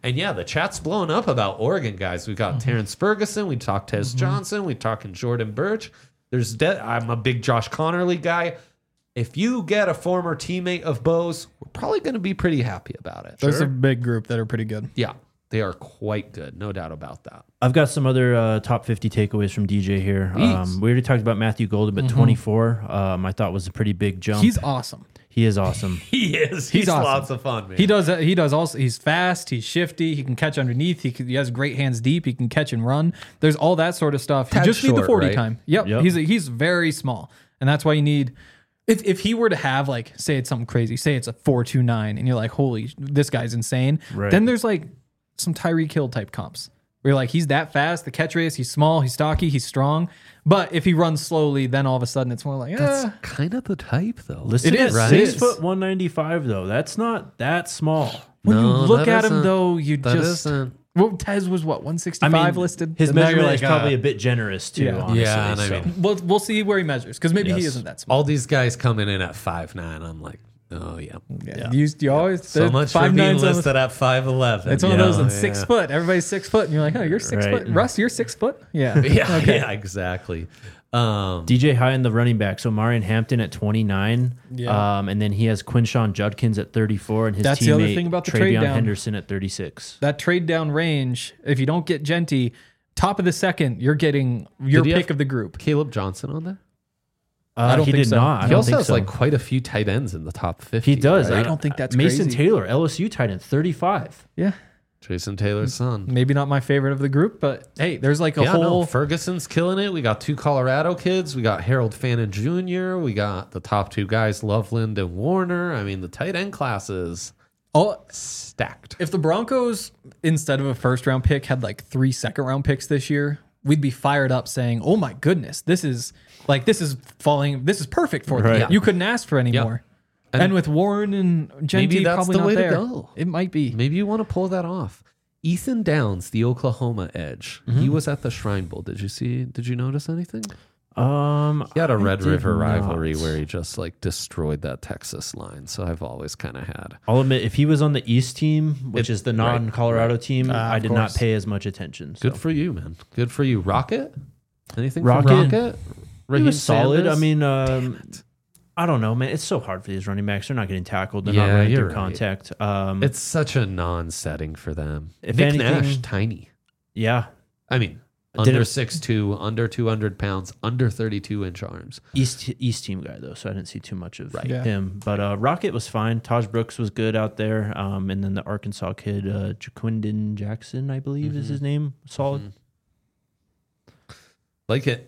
Speaker 1: And yeah, the chat's blowing up about Oregon guys. We got Terrence Ferguson. We talked Tez Johnson. We talking Jordan Birch. I'm a big Josh Connerly guy. If you get a former teammate of Bo's, we're probably going to be pretty happy about it.
Speaker 3: There's a big group that are pretty good.
Speaker 1: Yeah, they are quite good. No doubt about that.
Speaker 2: I've got some other top 50 takeaways from DJ here.
Speaker 1: Please.
Speaker 2: We already talked about Matthew Golden, but 24 I thought was a pretty big jump.
Speaker 3: He's awesome.
Speaker 2: He is awesome.
Speaker 1: He is. He's
Speaker 3: awesome.
Speaker 1: lots of fun, man.
Speaker 3: He does also. He's fast. He's shifty. He can catch underneath. He has great hands deep. He can catch and run. There's all that sort of stuff. You
Speaker 1: Tad
Speaker 3: just need the
Speaker 1: short,
Speaker 3: 40
Speaker 1: right?
Speaker 3: time. Yep.
Speaker 2: Yep.
Speaker 3: He's very small, and that's why you need. If he were to have like, say it's something crazy, say it's a 4.29, and you're like, holy, this guy's insane.
Speaker 2: Right.
Speaker 3: Then there's like some Tyreek Hill type comps. Where you're like, he's that fast, the catch radius, he's small, he's stocky, he's strong. But if he runs slowly, then all of a sudden it's more like,
Speaker 1: That's kind of the type, though.
Speaker 2: Listen,
Speaker 3: It is,
Speaker 2: at
Speaker 3: right?
Speaker 2: 6 foot 195 though. That's not that small.
Speaker 3: when you
Speaker 1: No,
Speaker 3: look
Speaker 1: that
Speaker 3: at him
Speaker 1: isn't.
Speaker 3: though, you
Speaker 1: That
Speaker 3: just.
Speaker 1: isn't.
Speaker 3: Well, Tez was what, 165 listed?
Speaker 2: His
Speaker 3: And now you're
Speaker 2: measurement is
Speaker 3: like,
Speaker 2: probably a bit generous too.
Speaker 3: Yeah.
Speaker 2: Honestly,
Speaker 1: Yeah, and I
Speaker 2: so.
Speaker 1: mean-
Speaker 3: We'll see where he measures because maybe he
Speaker 2: Yes.
Speaker 3: isn't that small.
Speaker 1: All these guys coming in at 5'9". I'm like, oh, yeah.
Speaker 3: Yeah. You always
Speaker 1: So much for being
Speaker 3: 5'9" 's almost-
Speaker 1: listed at 5'11".
Speaker 3: It's one of those in
Speaker 1: Yeah.
Speaker 3: 6 foot. Everybody's 6 foot, and you're like, oh, you're 6
Speaker 2: Right.
Speaker 3: foot. Russ, you're 6 foot. Yeah.
Speaker 1: Yeah,
Speaker 3: Okay.
Speaker 1: yeah, exactly.
Speaker 2: DJ high in the running back. So Marion Hampton at 29.
Speaker 3: Yeah.
Speaker 2: And then he has Quinshawn Judkins at 34 and his
Speaker 3: That's
Speaker 2: teammate
Speaker 3: the other thing about the trade
Speaker 2: Travion
Speaker 3: down.
Speaker 2: Henderson at 36.
Speaker 3: That trade down range, if you don't get Genty, top of the second, you're getting your
Speaker 1: Did he
Speaker 3: pick
Speaker 1: have
Speaker 3: of the group.
Speaker 1: Caleb Johnson on there?
Speaker 3: I don't
Speaker 2: he
Speaker 3: think
Speaker 2: did
Speaker 3: so.
Speaker 2: not. I
Speaker 1: He
Speaker 2: don't
Speaker 1: also
Speaker 2: think
Speaker 1: has
Speaker 2: so.
Speaker 1: like quite a few tight ends in the top 50.
Speaker 2: He does.
Speaker 1: right?
Speaker 3: I don't think that's
Speaker 2: Mason
Speaker 3: crazy.
Speaker 2: Taylor, LSU tight end, 35.
Speaker 3: Yeah.
Speaker 1: Jason Taylor's son.
Speaker 3: Maybe not my favorite of the group, but hey, there's like a
Speaker 1: Yeah, no,
Speaker 3: whole.
Speaker 1: Ferguson's killing it. We got 2 Colorado kids. We got Harold Fannin Jr. We got the top 2 guys, Loveland and Warner. I mean, the tight end classes
Speaker 3: Oh,
Speaker 1: stacked.
Speaker 3: if the Broncos, instead of a first round pick, had like 3 second round picks this year, we'd be fired up saying, oh my goodness, this is perfect for them.
Speaker 2: Right.
Speaker 3: You couldn't ask for any
Speaker 1: Yeah.
Speaker 3: more. And with Warren and
Speaker 1: maybe
Speaker 3: Genty
Speaker 1: that's
Speaker 3: probably
Speaker 1: the
Speaker 3: not
Speaker 1: way to
Speaker 3: there.
Speaker 1: go.
Speaker 3: It might be.
Speaker 1: Maybe you want to pull that off. Ethan Downs, the Oklahoma edge. He was at the Shrine Bowl. Did you notice anything? He had a Red
Speaker 2: did
Speaker 1: River
Speaker 2: not.
Speaker 1: rivalry where he just like destroyed that Texas line. So I've always kind of had.
Speaker 2: I'll admit, if he was on the East team, which is the
Speaker 1: right,
Speaker 2: non-Colorado team, I
Speaker 3: of
Speaker 2: did not
Speaker 3: course.
Speaker 2: pay as much attention. So.
Speaker 1: Good for you, man. Good for you. Rocket? Anything
Speaker 2: Rocket?
Speaker 1: from Rocket?
Speaker 2: He
Speaker 1: Raheem
Speaker 2: was solid.
Speaker 1: Sanders?
Speaker 2: I mean, I don't know, man. It's so hard for these running backs. They're not getting tackled. They're
Speaker 1: Yeah,
Speaker 2: not running
Speaker 1: you're
Speaker 2: through
Speaker 1: right.
Speaker 2: contact.
Speaker 1: It's such a non-setting for them.
Speaker 2: If
Speaker 1: Nick
Speaker 2: anything-
Speaker 1: Nash, tiny.
Speaker 2: Yeah.
Speaker 1: I mean,
Speaker 2: Didn't-
Speaker 1: under 6'2", under 200 pounds, under 32-inch arms.
Speaker 2: East team guy though, so I didn't see too much of
Speaker 3: Yeah.
Speaker 2: him. But Rocket was fine. Taj Brooks was good out there, and then the Arkansas kid Jaquindon Jackson, I believe is his name. Solid.
Speaker 1: Like it.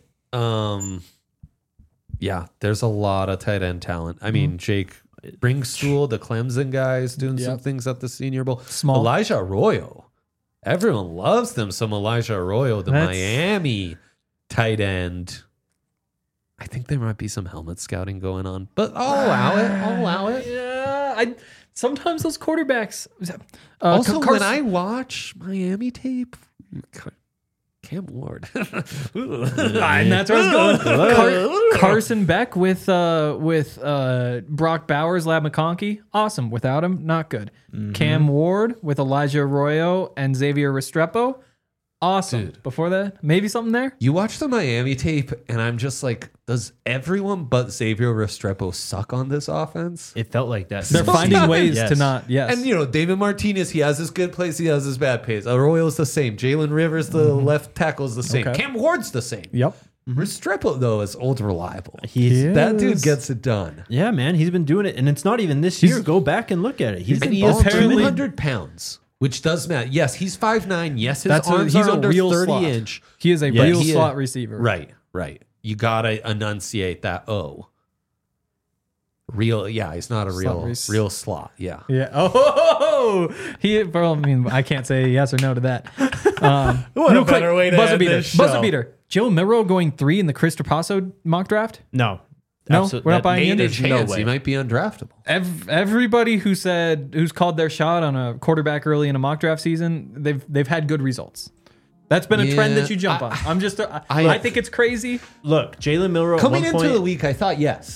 Speaker 1: Yeah, there's a lot of tight end talent. I mean, Jake Bringstool, the Clemson guys, doing some
Speaker 3: Yep.
Speaker 1: things at the Senior Bowl.
Speaker 3: Small.
Speaker 1: Elijah Arroyo. Everyone loves them. Some Elijah Arroyo, the
Speaker 3: That's-
Speaker 1: Miami tight end. I think there might be some helmet scouting going on, but I'll allow it. I'll allow it.
Speaker 3: Yeah, sometimes those quarterbacks.
Speaker 1: Also,
Speaker 3: Carson-
Speaker 1: when I watch Miami tape, Cam Ward.
Speaker 3: and that's where I was going. Carson Beck with Brock Bowers, Lab McConkey, awesome. Without him, not good. Cam Ward with Elijah Arroyo and Xavier Restrepo, awesome.
Speaker 1: Dude.
Speaker 3: Before that, maybe something there.
Speaker 1: You watch the Miami tape, and I'm just like, does everyone but Xavier Restrepo suck on this offense?
Speaker 2: It felt like that.
Speaker 3: They're
Speaker 1: Sometimes.
Speaker 3: finding ways
Speaker 2: Yes.
Speaker 3: to not. Yes,
Speaker 1: And, you know, David Martinez, he has his good plays, he has his bad plays. Arroyo's the same. Jalen Rivers, the left tackle's the same.
Speaker 3: Okay.
Speaker 1: Cam Ward's the same.
Speaker 3: yep.
Speaker 1: Restrepo, though, is old reliable.
Speaker 2: He's
Speaker 3: Yeah.
Speaker 1: That dude
Speaker 3: Yes.
Speaker 1: gets it done.
Speaker 2: Yeah, man, he's been doing it, and it's not even this year. Go back and look at it. He's
Speaker 1: And
Speaker 2: been
Speaker 1: he is
Speaker 2: balling.
Speaker 3: apparently-
Speaker 1: 200 pounds, which does matter. Yes, he's 5'9". Yes, his
Speaker 3: That's
Speaker 1: arms
Speaker 3: he's
Speaker 1: are
Speaker 3: a
Speaker 1: under
Speaker 3: real
Speaker 1: 30
Speaker 3: slot.
Speaker 1: inch.
Speaker 3: He is a
Speaker 2: Yeah,
Speaker 3: real
Speaker 1: he is.
Speaker 3: slot receiver.
Speaker 1: Right, right. You got to enunciate that O. Real, yeah, he's not a
Speaker 3: Slot
Speaker 1: real slot. Yeah.
Speaker 3: Yeah. Oh, well, I mean, I can't say yes or no to that.
Speaker 1: What
Speaker 3: real
Speaker 1: a better way to
Speaker 3: buzzer
Speaker 1: end
Speaker 3: beater.
Speaker 1: this
Speaker 3: Buzzer
Speaker 1: show.
Speaker 3: beater. Joe Milrow going 3 in the Chris Trapasso mock draft.
Speaker 2: No.
Speaker 3: No,
Speaker 2: Absolute-
Speaker 3: we're not
Speaker 2: that
Speaker 3: buying
Speaker 2: made
Speaker 3: into
Speaker 2: it.
Speaker 1: There's
Speaker 3: There's
Speaker 1: a chance
Speaker 2: way.
Speaker 1: he might be undraftable.
Speaker 3: Everybody who's called their shot on a quarterback early in a mock draft season, they've had good results. That's been a trend
Speaker 1: Yeah,
Speaker 3: that you jump on. I think it's crazy.
Speaker 2: Look, Jalen Milrow
Speaker 1: Coming
Speaker 2: at
Speaker 1: into
Speaker 2: one
Speaker 1: the
Speaker 2: point,
Speaker 1: week, I thought yes.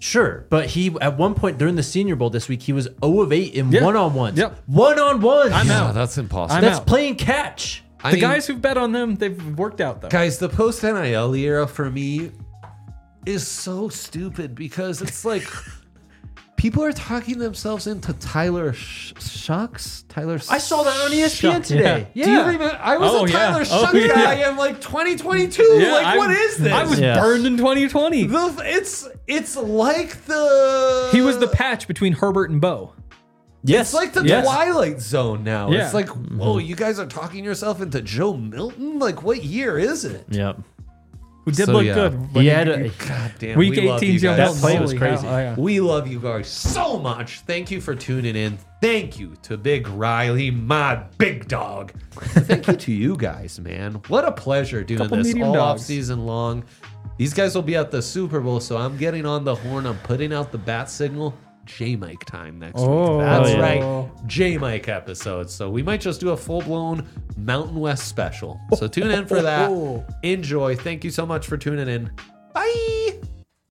Speaker 2: Sure, but he at one point during the Senior Bowl this week, he was 0 of 8 in
Speaker 3: Yeah.
Speaker 2: one-on-ones.
Speaker 3: Yep.
Speaker 2: One-on-ones.
Speaker 3: I'm
Speaker 1: Yeah,
Speaker 3: out.
Speaker 1: that's impossible.
Speaker 3: I'm
Speaker 2: That's
Speaker 3: out.
Speaker 2: playing catch.
Speaker 1: I
Speaker 3: The
Speaker 1: mean,
Speaker 3: guys who've bet on them, they've worked out though.
Speaker 1: guys, the post NIL era for me is so stupid because it's like people are talking themselves into Tyler Shucks.
Speaker 2: I saw that on ESPN
Speaker 3: Shucks,
Speaker 2: today.
Speaker 1: Do you remember? I was
Speaker 3: Oh,
Speaker 1: a
Speaker 3: yeah.
Speaker 1: Tyler
Speaker 3: Oh,
Speaker 1: Shucks
Speaker 3: yeah.
Speaker 1: guy in like 2022. What is this?
Speaker 3: I was
Speaker 2: Yeah.
Speaker 3: burned in 2020.
Speaker 1: It's like the
Speaker 3: He was the patch between Herbert and Bo.
Speaker 2: Yes.
Speaker 1: It's like the
Speaker 3: Yes.
Speaker 1: Twilight Zone now.
Speaker 3: Yeah.
Speaker 1: It's like, whoa, you guys are talking yourself into Joe Milton? Like, what year is it?
Speaker 2: Yep.
Speaker 3: Who did
Speaker 1: So,
Speaker 3: look
Speaker 1: yeah.
Speaker 3: good.
Speaker 2: He had a,
Speaker 1: God damn.
Speaker 3: Week
Speaker 1: we love
Speaker 3: 18
Speaker 1: you
Speaker 3: Joe
Speaker 1: guys.
Speaker 3: Milton.
Speaker 2: That play was
Speaker 3: Holy
Speaker 2: crazy.
Speaker 3: hell. Oh, yeah.
Speaker 1: We love you guys so much. Thank you for tuning in. Thank you to Big Riley, my big dog. Thank you to you guys, man. What a pleasure doing
Speaker 3: Couple
Speaker 1: this
Speaker 3: medium
Speaker 1: all off
Speaker 3: dogs.
Speaker 1: season long. These guys will be at the Super Bowl, so I'm getting on the horn. I'm putting out the bat signal. J-Mike time next
Speaker 3: Oh.
Speaker 1: week. That's
Speaker 2: Oh, yeah.
Speaker 1: right. J-Mike episode. So we might just do a full-blown Mountain West special. So tune in for that. Enjoy. Thank you so much for tuning in. Bye.